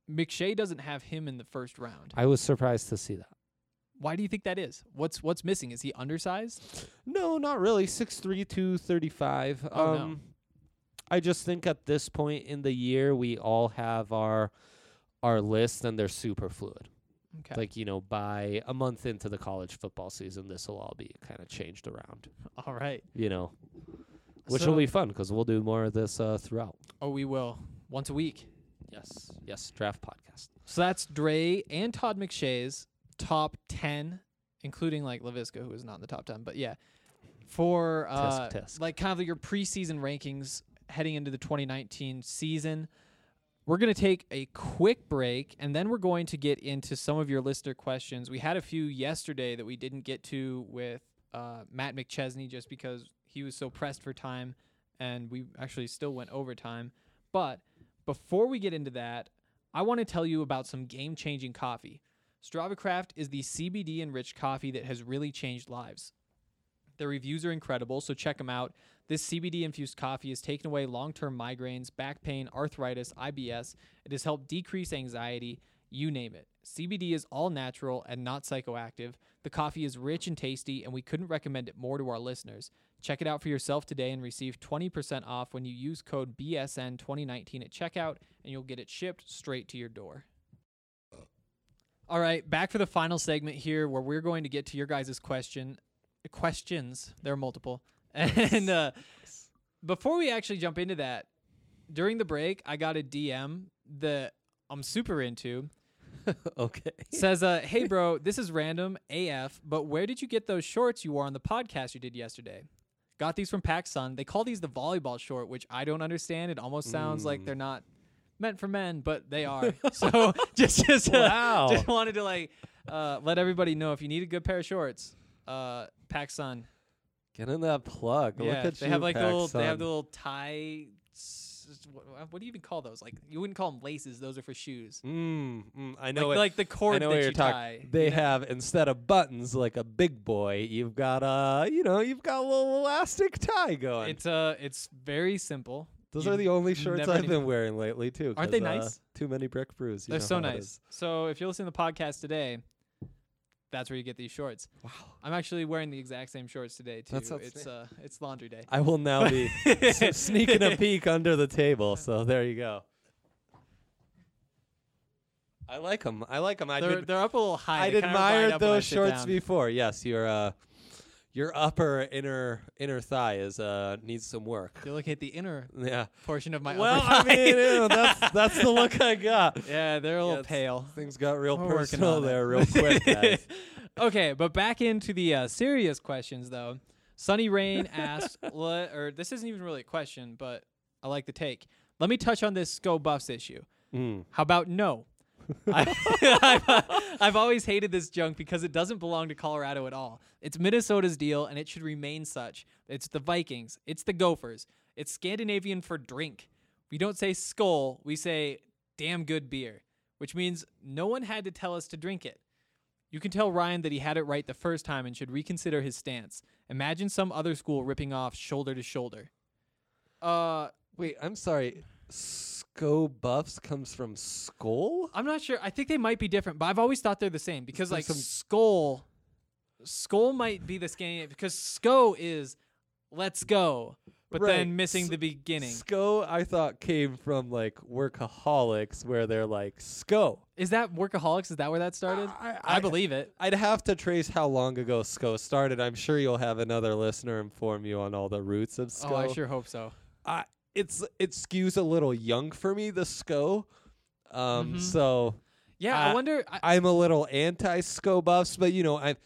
McShay doesn't have him in the first round. I was surprised to see that. Why do you think that is? What's what's missing? Is he undersized? No, not really. six three, two thirty-five. Oh, um, no. I just think at this point in the year, we all have our our list, and they're super fluid. Okay. Like, you know, by a month into the college football season, this will all be kind of changed around. All right. You know, which So- will be fun because we'll do more of this uh, throughout. Oh, we will. Once a week. Yes. Yes. Draft podcast. So that's Dre and Todd McShay's top ten, including like LaVisca, who is not in the top ten. But yeah, for uh, Tisk, tisk. like kind of your preseason rankings heading into the twenty nineteen season. We're going to take a quick break, and then we're going to get into some of your listener questions. We had a few yesterday that we didn't get to with uh, Matt McChesney just because he was so pressed for time, and we actually still went overtime. But before we get into that, I want to tell you about some game-changing coffee. StravaCraft is the C B D-enriched coffee that has really changed lives. The reviews are incredible, so check them out. This C B D-infused coffee has taken away long-term migraines, back pain, arthritis, I B S. It has helped decrease anxiety, you name it. C B D is all natural and not psychoactive. The coffee is rich and tasty, and we couldn't recommend it more to our listeners. Check it out for yourself today and receive twenty percent off when you use code B S N twenty nineteen at checkout, and you'll get it shipped straight to your door. All right, back for the final segment here where we're going to get to your guys' question. Questions. There are multiple. And uh, before we actually jump into that, during the break, I got a D M that I'm super into. Okay. Says, uh, hey, bro, this is random A F, but where did you get those shorts you wore on the podcast you did yesterday? Got these from PacSun. They call these the volleyball short, which I don't understand. It almost sounds Mm. like they're not meant for men, but they are. So just just, uh, Wow. just wanted to like uh, let everybody know if you need a good pair of shorts, uh, PacSun. Get in that plug. Yeah, Look at they you, have like the little, they have PacSun. the little tie. s- s- What, what do you even call those? Like you wouldn't call them laces; those are for shoes. Mm, mm, I know like, it. like the cord I know that what you're you talking. tie. They you know? have, instead of buttons like a big boy, you've got a, you know, you've got a little elastic tie going. It's uh, it's very simple. Those You are the only shorts never I've knew. been wearing lately too. Aren't they 'cause, uh, nice? Too many brick brews. You They're know so how it nice. is. So if you're listening to the podcast today, that's where you get these shorts. Wow. I'm actually wearing the exact same shorts today too. That's it's uh, it's laundry day. I will now be s- sneaking a peek under the table. So there you go. I like them. I like them. I they're did, they're up a little high. I'd They kinda ride admired up when I those sit shorts down. before. Yes, your uh, your upper inner inner thigh is uh needs some work. You're looking at the inner Yeah. portion of my Well, upper I thigh. mean, you know, that's that's the look I got. Yeah, they're a Yeah, little it's- pale. Things got real We're working personal on it. there, real quick, guys. Okay, but back into the uh, serious questions though. Sunny Rain asked, le- or this isn't even really a question, but I like the take. Let me touch on this Sco Buffs issue. Mm. How about no? I, I've, uh, I've always hated this junk because it doesn't belong to Colorado at all. It's Minnesota's deal, and it should remain such. It's the Vikings. It's the Gophers. It's Scandinavian for drink. We don't say skull. We say damn good beer, which means no one had to tell us to drink it. You can tell Ryan that he had it right the first time and should reconsider his stance. Imagine some other school ripping off shoulder to shoulder. Uh, Wait, I'm sorry. Sco Buffs comes from Skull? I'm not sure. I think they might be different, but I've always thought they're the same because There's like some- skull, skull might be the Scandinavian because Sco is let's go, but Right. then missing S- the beginning. Sco, I thought, came from like Workaholics, where they're like Sco. Is that Workaholics? Is that where that started? I- I, I- believe it. I'd have to trace how long ago Sco started. I'm sure you'll have another listener inform you on all the roots of Sco. Oh, I sure hope so. I, it's it skews a little young for me, the Sco. Um, Mhm. so Yeah, I Uh, wonder. I, I'm a little anti Sco Buffs, but you know, I,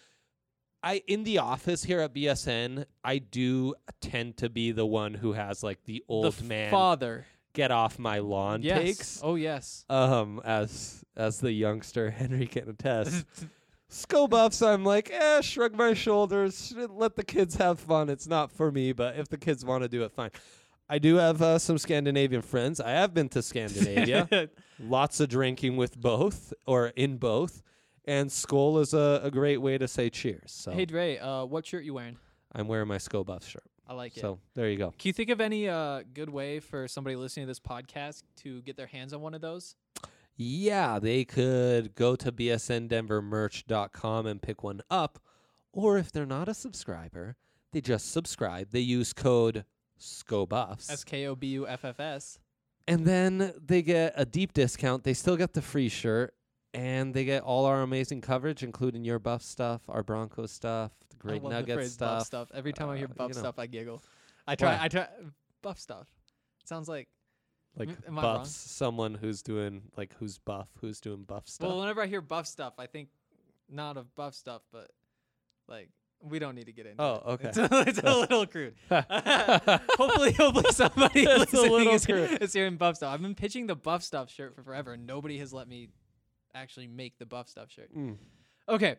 I in the office here at B S N, I do tend to be the one who has like the old the man father. get off my lawn Yes. takes. Oh yes. Um, as as the youngster Henry can attest. Sco Buffs, I'm like, eh, shrug my shoulders, let the kids have fun. It's not for me, but if the kids want to do it, fine. I do have uh, some Scandinavian friends. I have been to Scandinavia. Lots of drinking with both, or in both. And Skull is a, a great way to say cheers. So Hey Dre, uh, what shirt you wearing? I'm wearing my Sco Buffs shirt. I like it. So there you go. Can you think of any uh, good way for somebody listening to this podcast to get their hands on one of those? Yeah, they could go to b s n denver merch dot com and pick one up. Or if they're not a subscriber, they just subscribe. They use code SCOBUFFS. S K O B U F F S. And then they get a deep discount. They still get the free shirt. And they get all our amazing coverage, including your Buff stuff, our Broncos stuff, the I Great love the Nuggets phrase stuff. Buff stuff. Every time I hear uh, buff you know. stuff, I giggle. I try. Why? I try. Buff stuff. Sounds like. Like M- am I buffs, wrong? someone who's doing like who's buff, who's doing buff stuff. Well, whenever I hear buff stuff, I think not of buff stuff, but like we don't need to get into. Oh, it. okay. It's a, it's a little crude. hopefully, hopefully somebody It's a listening little is, crude. is hearing buff stuff. I've been pitching the buff stuff shirt for forever, and nobody has let me actually make the buff stuff shirt. Mm. Okay,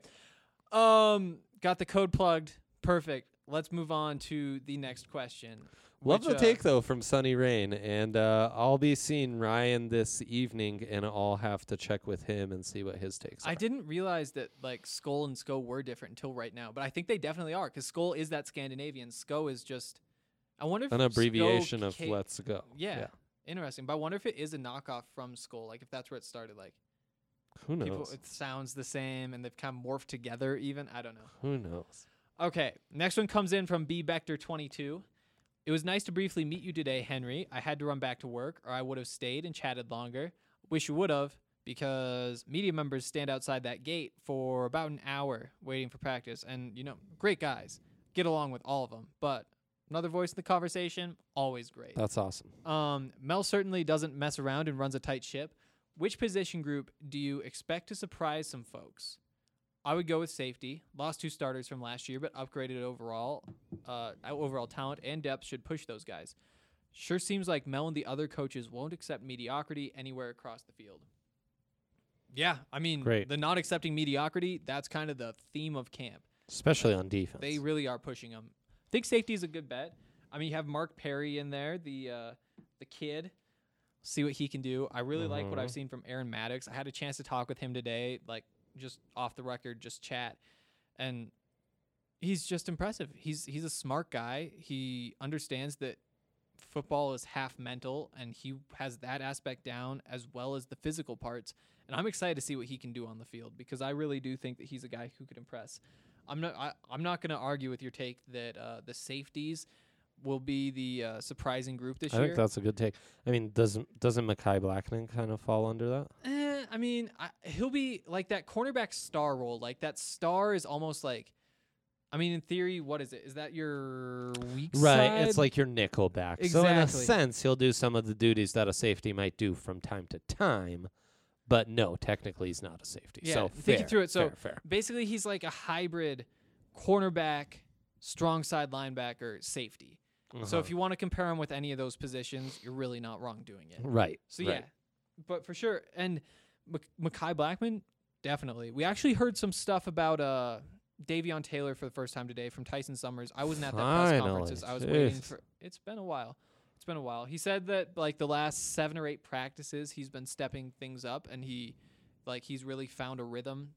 um, got the code plugged. Perfect. Let's move on to the next question. Love which, the uh, take though from Sunny Rain, and uh, I'll be seeing Ryan this evening, and I'll have to check with him and see what his takes I are. didn't realize that like Skull and Sko were different until right now, but I think they definitely are because Skull is that Scandinavian. Sko is just, I wonder if An Sko abbreviation of ca- Let's Go. Yeah, interesting. But I wonder if it is a knockoff from Skull, like if that's where it started. Like Who knows? people, it sounds the same, and they've kind of morphed together. Even I don't know. Who knows? Okay, next one comes in from B Bechter twenty-two. It was nice to briefly meet you today, Henry. I had to run back to work, or I would have stayed and chatted longer. Wish you would have, because media members stand outside that gate for about an hour waiting for practice. And, you know, great guys. Get along with all of them. But another voice in the conversation, always great. That's awesome. Um, Mel certainly doesn't mess around and runs a tight ship. Which position group do you expect to surprise some folks? I would go with safety. Lost two starters from last year, but upgraded overall. Uh, overall talent and depth should push those guys. Sure seems like Mel and the other coaches won't accept mediocrity anywhere across the field. Yeah, I mean, Great. the not accepting mediocrity, that's kind of the theme of camp. Especially on defense. They really are pushing them. I think safety is a good bet. I mean, you have Mark Perry in there, the uh, the kid. See what he can do. I really like what I've Mhm. seen from Aaron Maddox. I had a chance to talk with him today, like just off the record, just chat, and he's just impressive. He's he's a smart guy. He understands that football is half mental, and he has that aspect down as well as the physical parts. And I'm excited to see what he can do on the field because I really do think that he's a guy who could impress. I'm not I, I'm not going to argue with your take that uh, the safeties will be the uh, surprising group this I year. think that's a good take. I mean, doesn't doesn't Mekhi Blackman kind of fall under that? Eh, I mean, I, he'll be like that cornerback star role. Like that star is almost like, I mean, in theory, what is it? Is that your weak Right. side? It's like your nickel back. So in a Exactly. sense, he'll do some of the duties that a safety might do from time to time. But no, technically he's not a safety. Yeah, so think fair, through it. So fair, fair. basically, he's like a hybrid cornerback, strong side linebacker, safety. So Uh-huh. if you want to compare him with any of those positions, you're really not wrong doing it. Right. So right. yeah, but for sure, and Mc- Mekhi Blackman, definitely. We actually heard some stuff about uh Davion Taylor for the first time today from Tyson Summers. I wasn't at that press Finally. conference. I was waiting Jeez. for. It's been a while. It's been a while. He said that like the last seven or eight practices, he's been stepping things up, and he, like, he's really found a rhythm.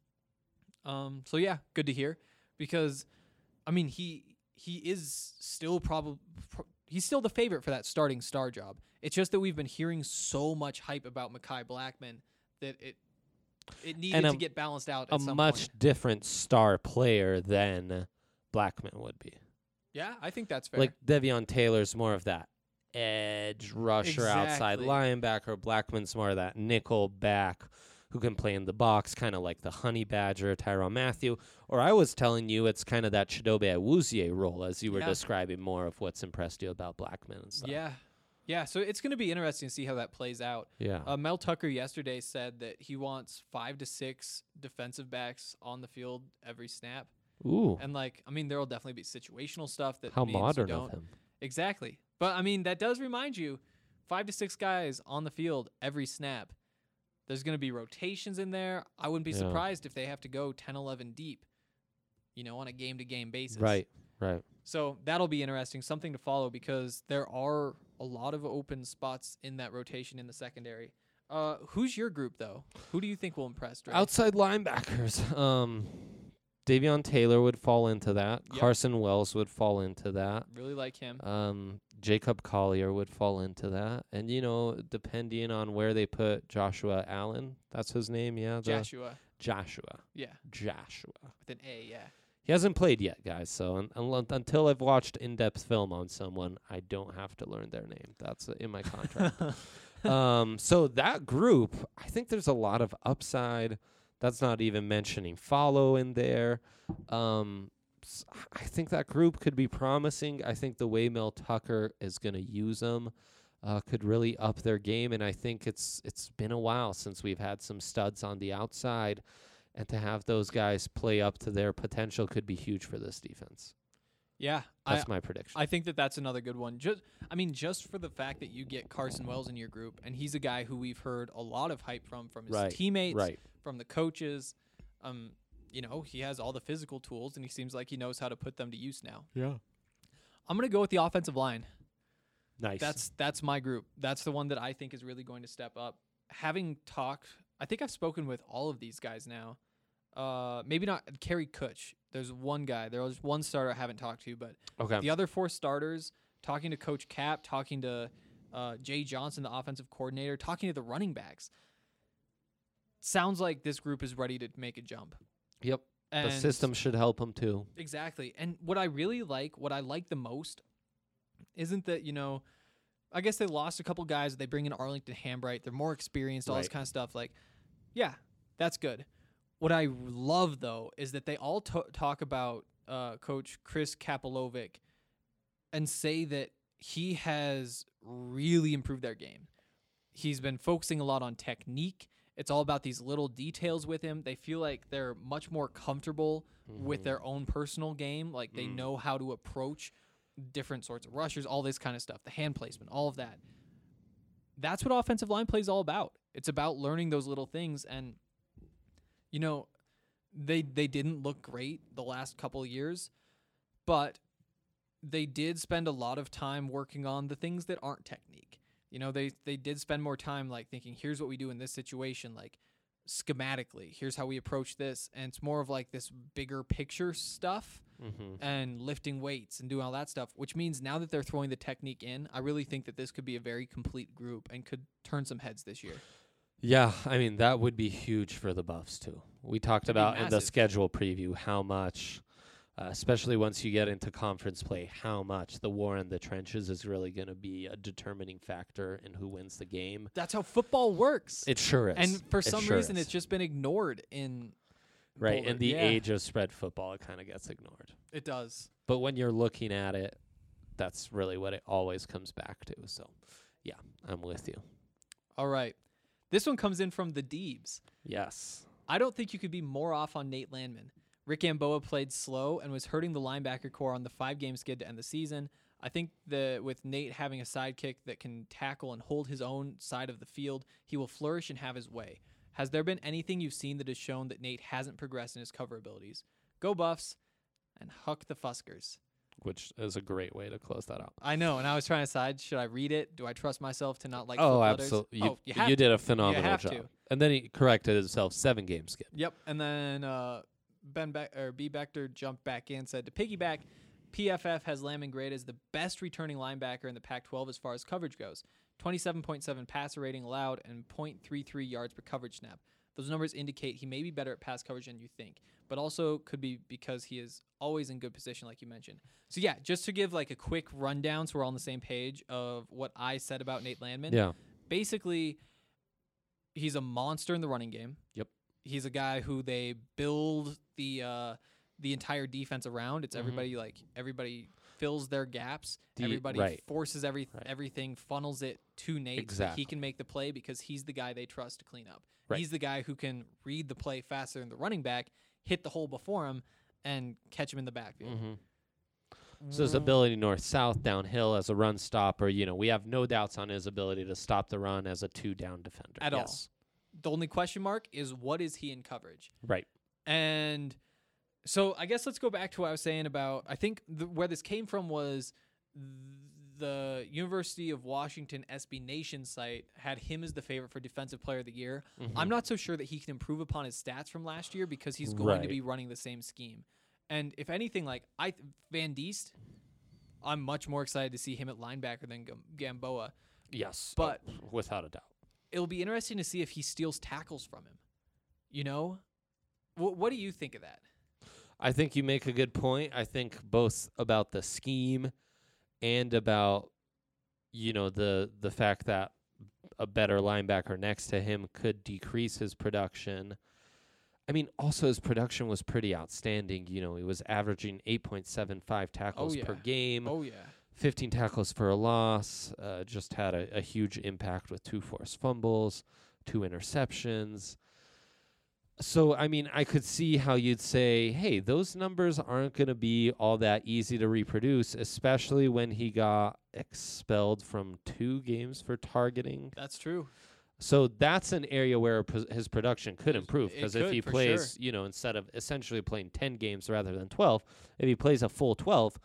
Um. So yeah, good to hear, because, I mean, he he is still probably pro- he's still the favorite for that starting star job. It's just that we've been hearing so much hype about Mekhi Blackman that it it needed And a- to get balanced out A at some much point. different star player than Blackman would be. Yeah, I think that's fair. Like Devion Taylor's more of that edge rusher, outside Exactly. linebacker. Blackman's more of that nickel back who can play in the box, kind of like the Honey Badger, Tyrann Mathieu. Or I was telling you it's kind of that Chidobe Awuzie role, as you were Yeah. describing more of what's impressed you about Blackman and stuff. yeah, yeah. So it's going to be interesting to see how that plays out. Yeah. Uh, Mel Tucker yesterday said that he wants five to six defensive backs on the field every snap. Ooh. And like, I mean, there will definitely be situational stuff that How means you modern don't. of him. Exactly. But I mean, that does remind you, five to six guys on the field every snap. There's going to be rotations in there. I wouldn't be Yeah. surprised if they have to go ten, eleven deep, you know, on a game-to-game basis. Right, right. So that'll be interesting, something to follow, because there are a lot of open spots in that rotation in the secondary. Uh, who's your group, though? Who do you think will impress? Dre? Outside linebackers. Um, Davion Taylor would fall into that. Yep. Carson Wells would fall into that. Really like him. Um, Jacob Collier would fall into that. And, you know, depending on where they put Joshua Allen, that's his name, yeah? the- Joshua. Joshua. Yeah. Joshua. With an A, yeah. He hasn't played yet, guys. So un- un- until I've watched in-depth film on someone, I don't have to learn their name. That's uh, in my contract. um, so that group, I think there's a lot of upside. That's not even mentioning Follow in there. Um, s- I think that group could be promising. I think the way Mel Tucker is going to use them uh, could really up their game. And I think it's it's been a while since we've had some studs on the outside. And to have those guys play up to their potential could be huge for this defense. Yeah. That's I, my prediction. I think that that's another good one. Just, I mean, just for the fact that you get Carson Wells in your group, and he's a guy who we've heard a lot of hype from, from his Right, teammates, right. from the coaches. Um, you know, he has all the physical tools, and he seems like he knows how to put them to use now. Yeah. I'm going to go with the offensive line. Nice. That's that's my group. That's the one that I think is really going to step up. Having talked, I think I've spoken with all of these guys now. Uh, maybe not Kerry Kutch. There's one guy. There was one starter I haven't talked to, but Okay. the other four starters, talking to Coach Cap, talking to uh, Jay Johnson, the offensive coordinator, talking to the running backs. Sounds like this group is ready to make a jump. Yep. And the system should help them too. Exactly. And what I really like, what I like the most, isn't that, you know, I guess they lost a couple guys. They bring in Arlington Hambright. They're more experienced, all this Right. kind of stuff. Like, yeah, that's good. What I love, though, is that they all to- talk about uh, Coach Chris Kapilovic and say that he has really improved their game. He's been focusing a lot on technique. It's all about these little details with him. They feel like they're much more comfortable with their own personal game. Like they Mm. know how to approach different sorts of rushers, all this kind of stuff, the hand placement, all of that. That's what offensive line play is all about. It's about learning those little things. And, you know, they they didn't look great the last couple of years, but they did spend a lot of time working on the things that aren't technique. You know, they they did spend more time like thinking, here's what we do in this situation, like schematically, here's how we approach this. And it's more of like this bigger picture stuff Mhm. and lifting weights and doing all that stuff, which means now that they're throwing the technique in, I really think that this could be a very complete group and could turn some heads this year. Yeah, I mean, that would be huge for the Buffs, too. We talked It'd be about in the massive. schedule preview how much, uh, especially once you get into conference play, how much the war in the trenches is really going to be a determining factor in who wins the game. That's how football works. It sure is. And for It some sure reason, is. it's just been ignored in Right, Boulder. in the Yeah, age of spread football, it kind of gets ignored. it does. But when you're looking at it, that's really what it always comes back to. So, yeah, I'm with you. All right. This one comes in from the Deebs. Yes. I don't think you could be more off on Nate Landman. Rick Amboa played slow and was hurting the linebacker core on the five-game skid to end the season. I think that with Nate having a sidekick that can tackle and hold his own side of the field, he will flourish and have his way. Has there been anything you've seen that has shown that Nate hasn't progressed in his cover abilities? Go Buffs and huck the Fuskers. Which is a great way to close that out. I know, and I was trying to decide, should I read it? Do I trust myself to not like Oh, flip letters? absolutely. You, Oh, you, have you did to. a phenomenal have job. to. And then he corrected himself seven game skip. Yep, and then uh, Ben Be- or B. Bechter jumped back in, said to piggyback, P F F has Landman graded as the best returning linebacker in the Pac twelve as far as coverage goes. twenty-seven point seven passer rating allowed and point three three yards per coverage snap. Those numbers indicate he may be better at pass coverage than you think, but also could be because he is always in good position, like you mentioned. So, yeah, just to give like a quick rundown so we're all on the same page of what I said about Nate Landman. Yeah. Basically, he's a monster in the running game. Yep. He's a guy who they build the uh, the entire defense around. It's Mhm. everybody like everybody fills their gaps. The- everybody right. forces every Right. everything, funnels it to Nate so that he Exactly. can make the play because he's the guy they trust to clean up. Right. He's the guy who can read the play faster than the running back, hit the hole before him, and catch him in the backfield. Mm-hmm. So his ability north-south, downhill as a run stopper, you know, we have no doubts on his ability to stop the run as a two-down defender. At yes. all. The only question mark is what is he in coverage? Right. And so I guess let's go back to what I was saying about, I think the, where this came from was th- the University of Washington S B Nation site had him as the favorite for Defensive Player of the Year. Mhm. I'm not so sure that he can improve upon his stats from last year because he's going to Right. be running the same scheme. And if anything, like I th- Van Diest, I'm much more excited to see him at linebacker than Gam- Gamboa. Yes, But oh, without a doubt. it'll be interesting to see if he steals tackles from him. You know, Wh- what do you think of that? I think you make a good point. I think both about the scheme and about, you know, the the fact that a better linebacker next to him could decrease his production. I mean, also his production was pretty outstanding. You know, he was averaging eight point seven five tackles yeah. per game. Oh, yeah. fifteen tackles for a loss. Uh, just had a, a huge impact with two forced fumbles, two interceptions. So, I mean, I could see how you'd say, hey, those numbers aren't going to be all that easy to reproduce, especially when he got expelled from two games for targeting. That's true. So that's an area where pos- his production could It- improve, it because if could, he for plays, you know, instead of essentially playing ten games rather than twelve, if he plays a full twelve,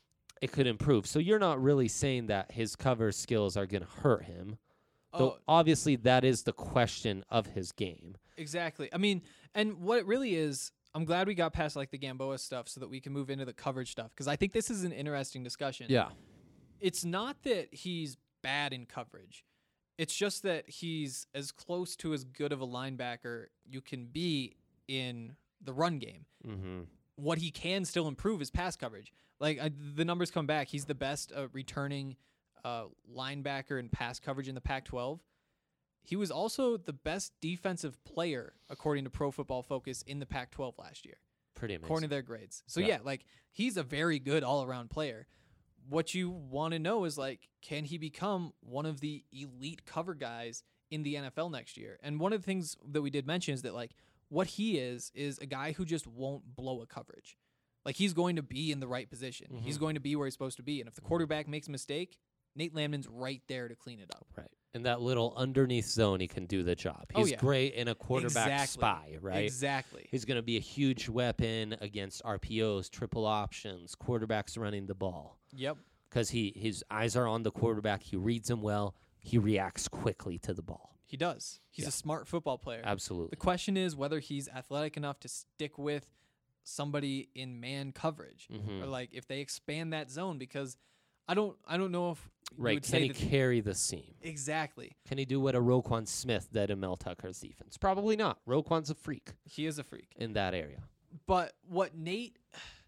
it could improve. So you're not really saying that his cover skills are going to hurt him. Though Oh. obviously that is the question of his game. Exactly. I mean, and what it really is, I'm glad we got past like the Gamboa stuff so that we can move into the coverage stuff, because I think this is an interesting discussion. Yeah. It's not that he's bad in coverage. It's just that he's as close to as good of a linebacker you can be in the run game. Mm-hmm. What he can still improve is pass coverage. Like I, the numbers come back. He's the best uh, returning uh, linebacker in pass coverage in the Pac twelve. He was also the best defensive player, according to Pro Football Focus, in the Pac twelve last year, Pretty amazing. according to their grades. So, Yeah. yeah, like, he's a very good all-around player. What you want to know is, like, can he become one of the elite cover guys in the N F L next year? And one of the things that we did mention is that, like, what he is is a guy who just won't blow a coverage. Like, he's going to be in the right position. He's Mhm. going to be where he's supposed to be. And if the quarterback makes a mistake, Nate Landman's right there to clean it up. Right. In that little underneath zone, he can do the job. Oh, He's yeah. great in a quarterback Exactly. spy, right? Exactly. He's going to be a huge weapon against R P Os, triple options, quarterbacks running the ball. Yep. Because he his eyes are on the quarterback. He reads him well. He reacts quickly to the ball. He does. He's Yeah. a smart football player. Absolutely. The question is whether he's athletic enough to stick with somebody in man coverage, Mhm. or like if they expand that zone. Because I don't, I don't know if you Right. would Can say he that carry the seam? exactly. Can he do what a Roquan Smith did in Mel Tucker's defense? Probably not. Roquan's a freak He is a freak. in that area. But what Nate,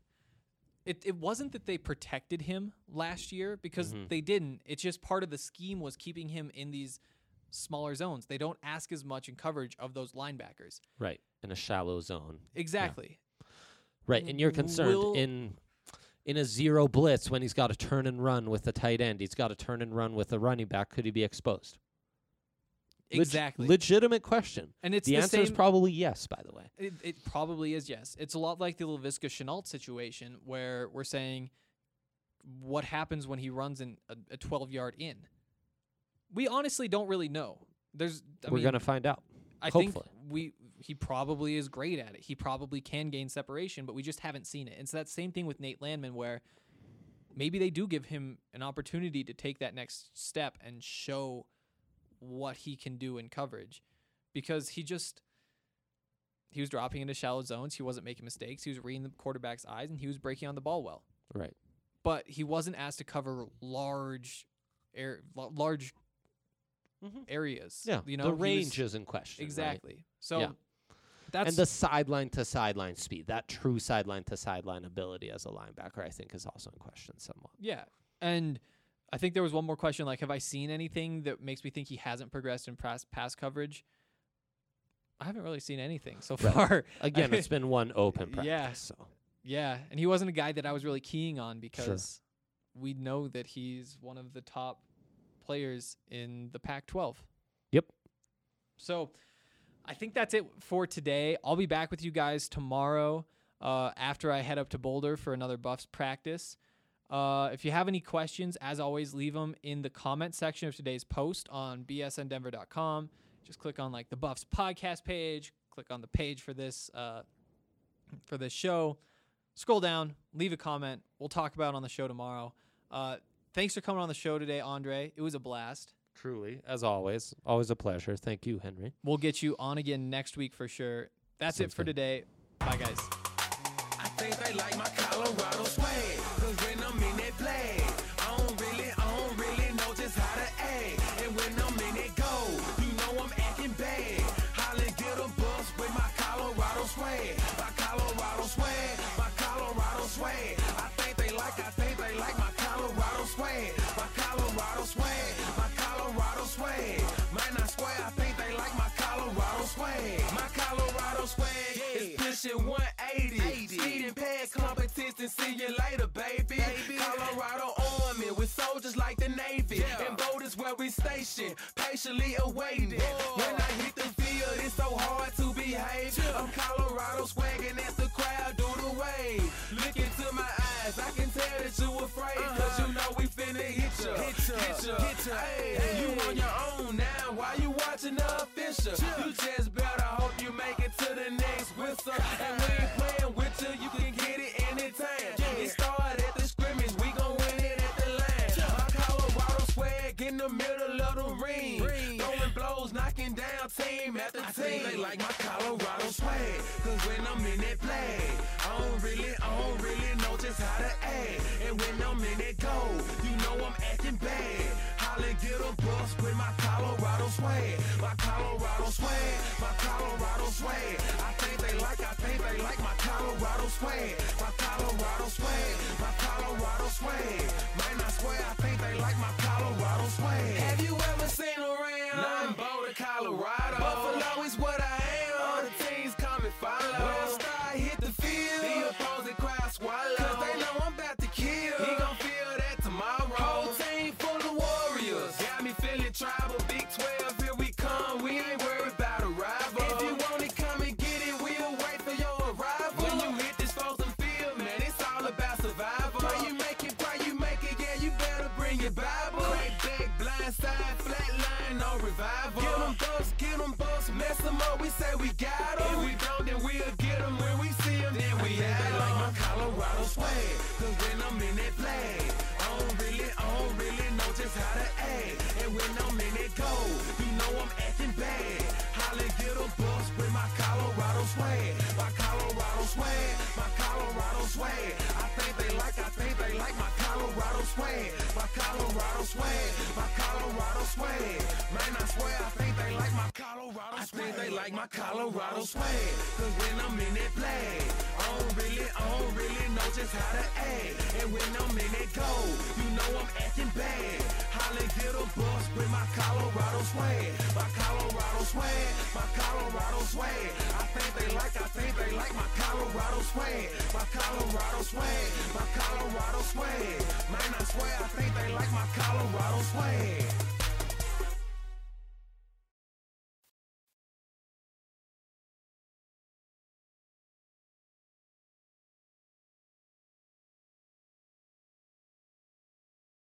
it, it wasn't that they protected him last year, because Mhm. they didn't. It's just part of the scheme was keeping him in these smaller zones. They don't ask as much in coverage of those linebackers. Right. In a shallow zone. Exactly. Right. And you're concerned Will- in in a zero blitz when he's got to turn and run with the tight end. He's got to turn and run with the running back. Could he be exposed? Leg- Exactly. legitimate question. And it's the, the answer is same- probably yes, by the way. It, it probably is, yes. It's a lot like the Laviska Chenault situation where we're saying what happens when he runs in a, a twelve-yard in. We honestly don't really know. There's, I We're mean, going to find out. I hopefully. think we he probably is great at it. He probably can gain separation, but we just haven't seen it. It's that same thing with Nate Landman where maybe they do give him an opportunity to take that next step and show what he can do in coverage, because he just he was dropping into shallow zones. He wasn't making mistakes. He was reading the quarterback's eyes, and he was breaking on the ball well. Right. But he wasn't asked to cover large air, l- large Mhm. areas. Yeah. you know, the he was- range is in question. right? exactly. So Yeah. that's And the sideline to sideline speed, that true sideline to sideline ability as a linebacker, I think is also in question somewhat. yeah. And I think there was one more question, like, have I seen anything that makes me think he hasn't progressed in pass pass coverage? I haven't really seen anything so Right. far. Again, it's been one open practice. Yeah. So. Yeah, and he wasn't a guy that I was really keying on because we know that he's one of the top players in the Pac twelve. Yep. So I think that's it for today. I'll be back with you guys tomorrow uh, after I head up to Boulder for another Buffs practice. Uh, if you have any questions, as always, leave them in the comment section of today's post on b s n denver dot com. Just click on like the Buffs podcast page, click on the page for this uh, for this show. Scroll down, leave a comment. We'll talk about it on the show tomorrow. Uh, thanks for coming on the show today, Andre. It was a blast. Truly, as always. Always a pleasure. Thank you, Henry. We'll get you on again next week for sure. That's Sounds it for good. today. Bye, guys. I think they like my Colorado swag, cause when I'm in that play, I don't really, I don't really know just how to act. And when I'm in that go, you know I'm acting bad. Holla, get a bus with my Colorado swag, my Colorado swag, my Colorado swag. I think they like, I think they like my Colorado swag, my Colorado swag, my Colorado swag. Man, I swear, I think they like my Colorado swag, my Colorado swag is pushing one eighty. Speeding past competition, see you later, baby. Colorado Army with soldiers like the Navy. And boat is where we station, patiently awaiting. When I hit the field, it's so hard to behave. I'm Colorado swagging as the crowd do the wave. Look into my eyes, I can tell that you afraid. Cause you know we finna hit ya, hit ya, hit ya, hit ya. Hey, you on your own now, why you watching the official? You just better hope you make it to the next whistle. And we ain't playing with you, you can get it anytime. It started at the scrimmage, we gon' win it at the line. My Colorado swag in the middle of the ring. Throwing blows, knocking down team after team. I think they like my Colorado swag, cause when I'm in that play, I don't really, I don't really know just how to act. And when I'm in that go, you know I'm acting bad. Holla, get a bus with my Colorado swag, my Colorado swag, my Colorado swag. I think they like, I think they like my Colorado swag, my Colorado swag, my Colorado swag. Man, I swear, I think they like my Colorado swag. Have you ever seen around? Nothing Boulder, Colorado. Buffalo is what I am. All the teams come and follow. When I start hit the field, the opposing crowd swallow. Cause they know I'm about to kill. He gon' feel that tomorrow. Whole team full of warriors. Got me feeling tribal. Big twelve, here we come. We ain't worried about a rival. If you want it, come and get it. We'll wait for your arrival. When you hit this frozen field, man, it's all about survival. Pray you make it, pray you make it. Yeah, you better bring your Bible. Crack back, blind side, flat line, no revival. Get them bucks, get them bucks, mess them up. We say we got them. If we don't, then we'll get them. When we see them, then we have them. Like my Colorado swag, cause when I'm in that play, I don't really, I don't really know just how to act. And when I'm in that go, you know I'm acting bad. Holla, get a bus with my Colorado swag, my Colorado swag, my Colorado swag. I think they like, I think they like my Colorado swag, my Colorado swag, my Colorado swag. Man, I swear, I think they like my Colorado swag. I think they like my Colorado swag, cause when I'm in that play, I don't really, I don't really know just how to act. And when I'm in that go, you know I'm acting bad. Holla, get a bus with my Colorado swag, my Colorado swag, my Colorado swag. I think they like, I think they like my Colorado swag, my Colorado swag, my Colorado swag. Man, I swear, I think they like my Colorado swag.